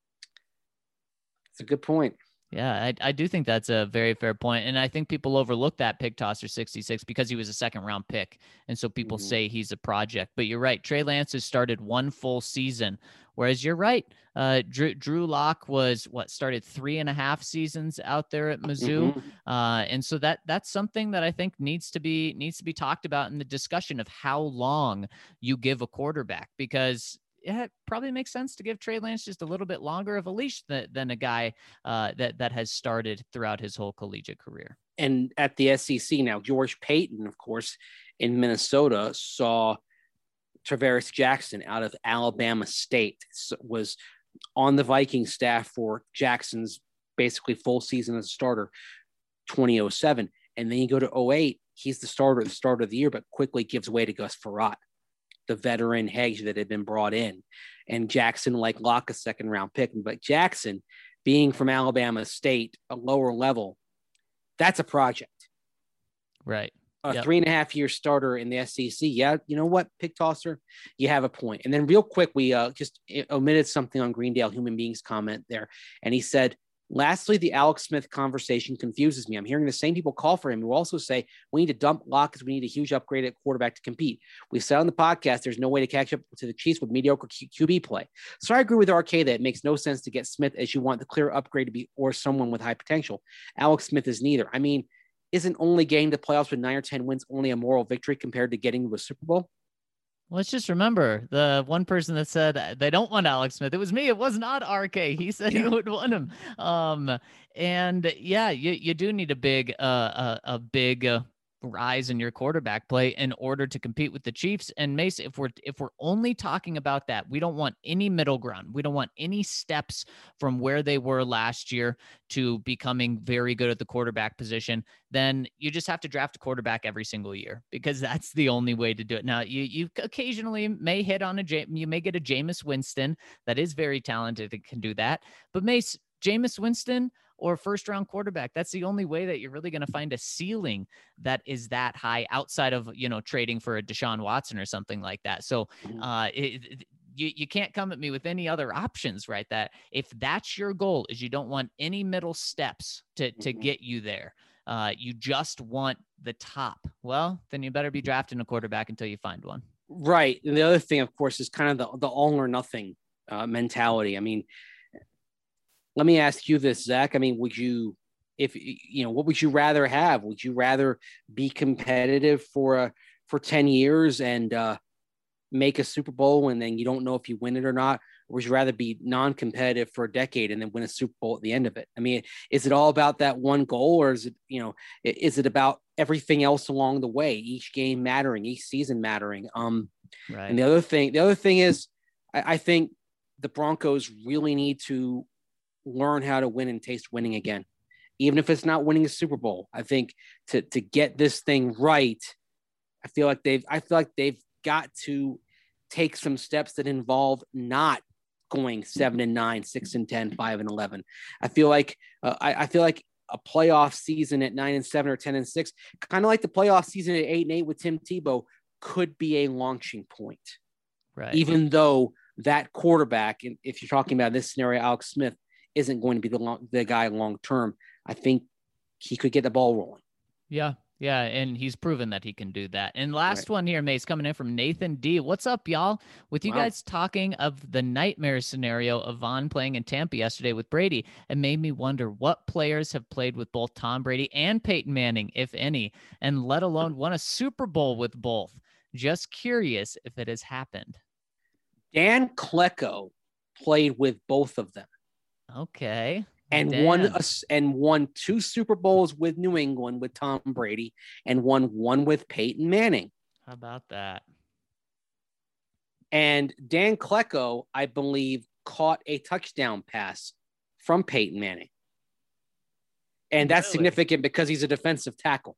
C: It's a good point.
A: Yeah, I, I do think that's a very fair point. And I think people overlook that Pig Tosser sixty-six because he was a second round pick. And so people mm-hmm. say he's a project. But you're right. Trey Lance has started one full season. Whereas you're right. Uh, Drew, Drew Lock was what started three and a half seasons out there at Mizzou. Mm-hmm. Uh, and so that that's something that I think needs to be needs to be talked about in the discussion of how long you give a quarterback, because yeah, it probably makes sense to give Trey Lance just a little bit longer of a leash than, than a guy uh, that, that has started throughout his whole collegiate career.
C: And at the S E C now, George Payton, of course, in Minnesota, saw Travaris Jackson out of Alabama State, was on the Viking staff for Jackson's basically full season as a starter, twenty oh seven. And then you go to oh eight, he's the starter, the starter of the year, but quickly gives way to Gus Frerotte, the veteran hedge that had been brought in. And Jackson, like Locke, a second round pick. But Jackson, being from Alabama State, a lower level, that's a project.
A: Right.
C: A
A: yep.
C: three and a half year starter in the S E C. Yeah, you know what, Pig Tosser, you have a point. And then real quick, we uh, just omitted something on Greendale Human Beings comment there. And he said, lastly, the Alex Smith conversation confuses me. I'm hearing the same people call for him who also say we need to dump Locke because we need a huge upgrade at quarterback to compete. We said on the podcast there's no way to catch up to the Chiefs with mediocre Q- QB play. So I agree with R K that it makes no sense to get Smith as you want the clear upgrade to be or someone with high potential. Alex Smith is neither. I mean, isn't only getting to playoffs with nine or ten wins only a moral victory compared to getting to a Super Bowl?
A: Let's just remember the one person that said they don't want Alex Smith. It was me. It was not R K. He said yeah. he would want him. Um, and yeah, you, you do need a big, uh, a, a big uh, rise in your quarterback play in order to compete with the Chiefs. And Mace, if we're, if we're only talking about that, we don't want any middle ground. We don't want any steps from where they were last year to becoming very good at the quarterback position. Then you just have to draft a quarterback every single year because that's the only way to do it. Now, you you occasionally may hit on a, you may get a Jameis Winston that is very talented and can do that. But Mace, Jameis Winston or first round quarterback, that's the only way that you're really going to find a ceiling that is that high outside of, you know, trading for a Deshaun Watson or something like that. So uh, it, it, you, you can't come at me with any other options, right? That if that's your goal is you don't want any middle steps to, to get you there. Uh, you just want the top. Well, then you better be drafting a quarterback until you find one.
C: Right. And the other thing, of course, is kind of the, the all or nothing uh, mentality. I mean, let me ask you this, Zach. I mean, would you, if you know, what would you rather have? Would you rather be competitive for a, for ten years and uh, make a Super Bowl and then you don't know if you win it or not? Or would you rather be non-competitive for a decade and then win a Super Bowl at the end of it? I mean, is it all about that one goal, or is it, you know, is it about everything else along the way, each game mattering, each season mattering? Um,
A: right.
C: And the other thing, the other thing is, I, I think the Broncos really need to learn how to win and taste winning again, even if it's not winning a Super Bowl. I think to to get this thing right, I feel like they've I feel like they've got to take some steps that involve not going seven and nine, six and ten, five and eleven. I feel like uh, I, I feel like a playoff season at nine and seven or ten and six, kind of like the playoff season at eight and eight with Tim Tebow, could be a launching point.
A: Right.
C: Even though that quarterback, if you're talking about this scenario, Alex Smith, isn't going to be the long, the guy long term, I think he could get the ball rolling.
A: Yeah, yeah, and he's proven that he can do that. And last
C: right.
A: one here, Mace, coming in from Nathan D. What's up, y'all? With you wow. guys talking of the nightmare scenario of Von playing in Tampa yesterday with Brady, it made me wonder what players have played with both Tom Brady and Peyton Manning, if any, and let alone won a Super Bowl with both. Just curious if it has happened.
C: Dan Klecko played with both of them.
A: Okay.
C: And
A: Dan.
C: won a, and won two Super Bowls with New England with Tom Brady, and won one with Peyton Manning.
A: How about that?
C: And Dan Klecko, I believe, caught a touchdown pass from Peyton Manning. And that's really? significant because he's a defensive tackle.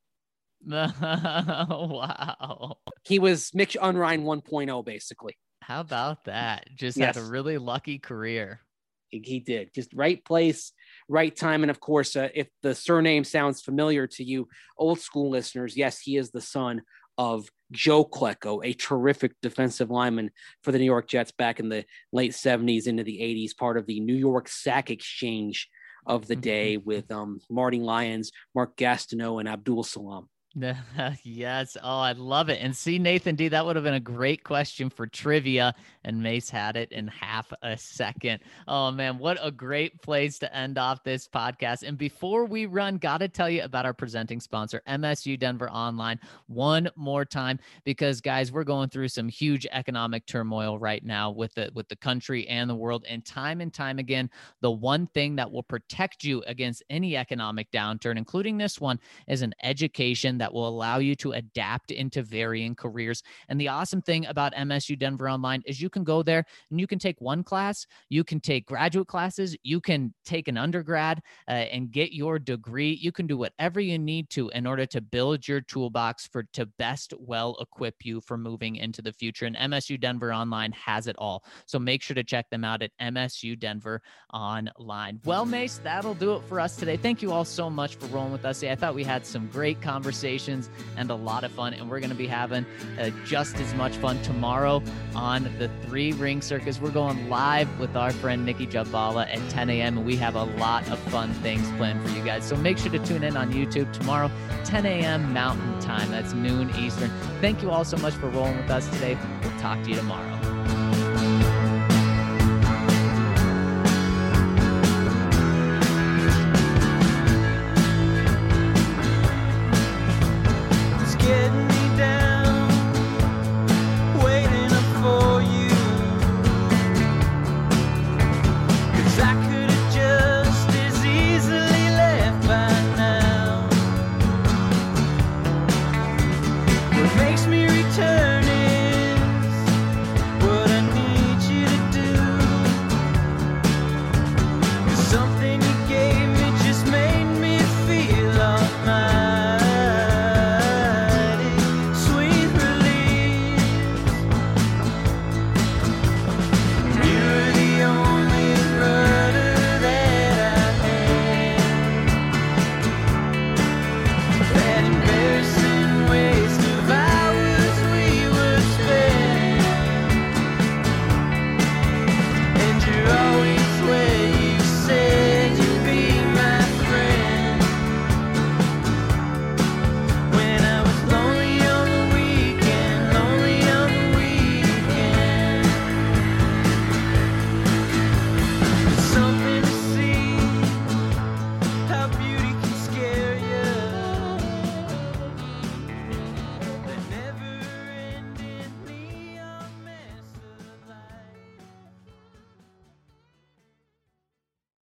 A: Wow.
C: He was Mitch Unrein one point oh, basically.
A: How about that? Just
C: yes.
A: had a really lucky career.
C: He, he did. Just right place, right time. And of course, uh, if the surname sounds familiar to you, old school listeners, yes, he is the son of Joe Klecko, a terrific defensive lineman for the New York Jets back in the late seventies into the eighties, part of the New York Sack Exchange of the day with um, Marty Lyons, Mark Gastineau, and Abdul Salam.
A: Yes. Oh, I love it. And see, Nathan D, that would have been a great question for trivia, and Mace had it in half a second. Oh man, what a great place to end off this podcast. And before we run, got to tell you about our presenting sponsor, M S U Denver Online, one more time, because guys, we're going through some huge economic turmoil right now with the, with the country and the world. And time and time again, the one thing that will protect you against any economic downturn, including this one, is an education that will allow you to adapt into varying careers. And the awesome thing about M S U Denver Online is you can go there and you can take one class, you can take graduate classes, you can take an undergrad uh, and get your degree. You can do whatever you need to in order to build your toolbox for to best well equip you for moving into the future. And M S U Denver Online has it all. So make sure to check them out at M S U Denver Online. Well, Mace, that'll do it for us today. Thank you all so much for rolling with us. I thought we had some great conversations and a lot of fun, and we're going to be having uh, just as much fun tomorrow on the Three Ring Circus. We're going live with our friend Nikki Jabala at ten a.m. and we have a lot of fun things planned for you guys. So make sure to tune in on YouTube tomorrow, ten a.m. Mountain Time. That's noon Eastern. Thank you all so much for rolling with us today. We'll talk to you tomorrow.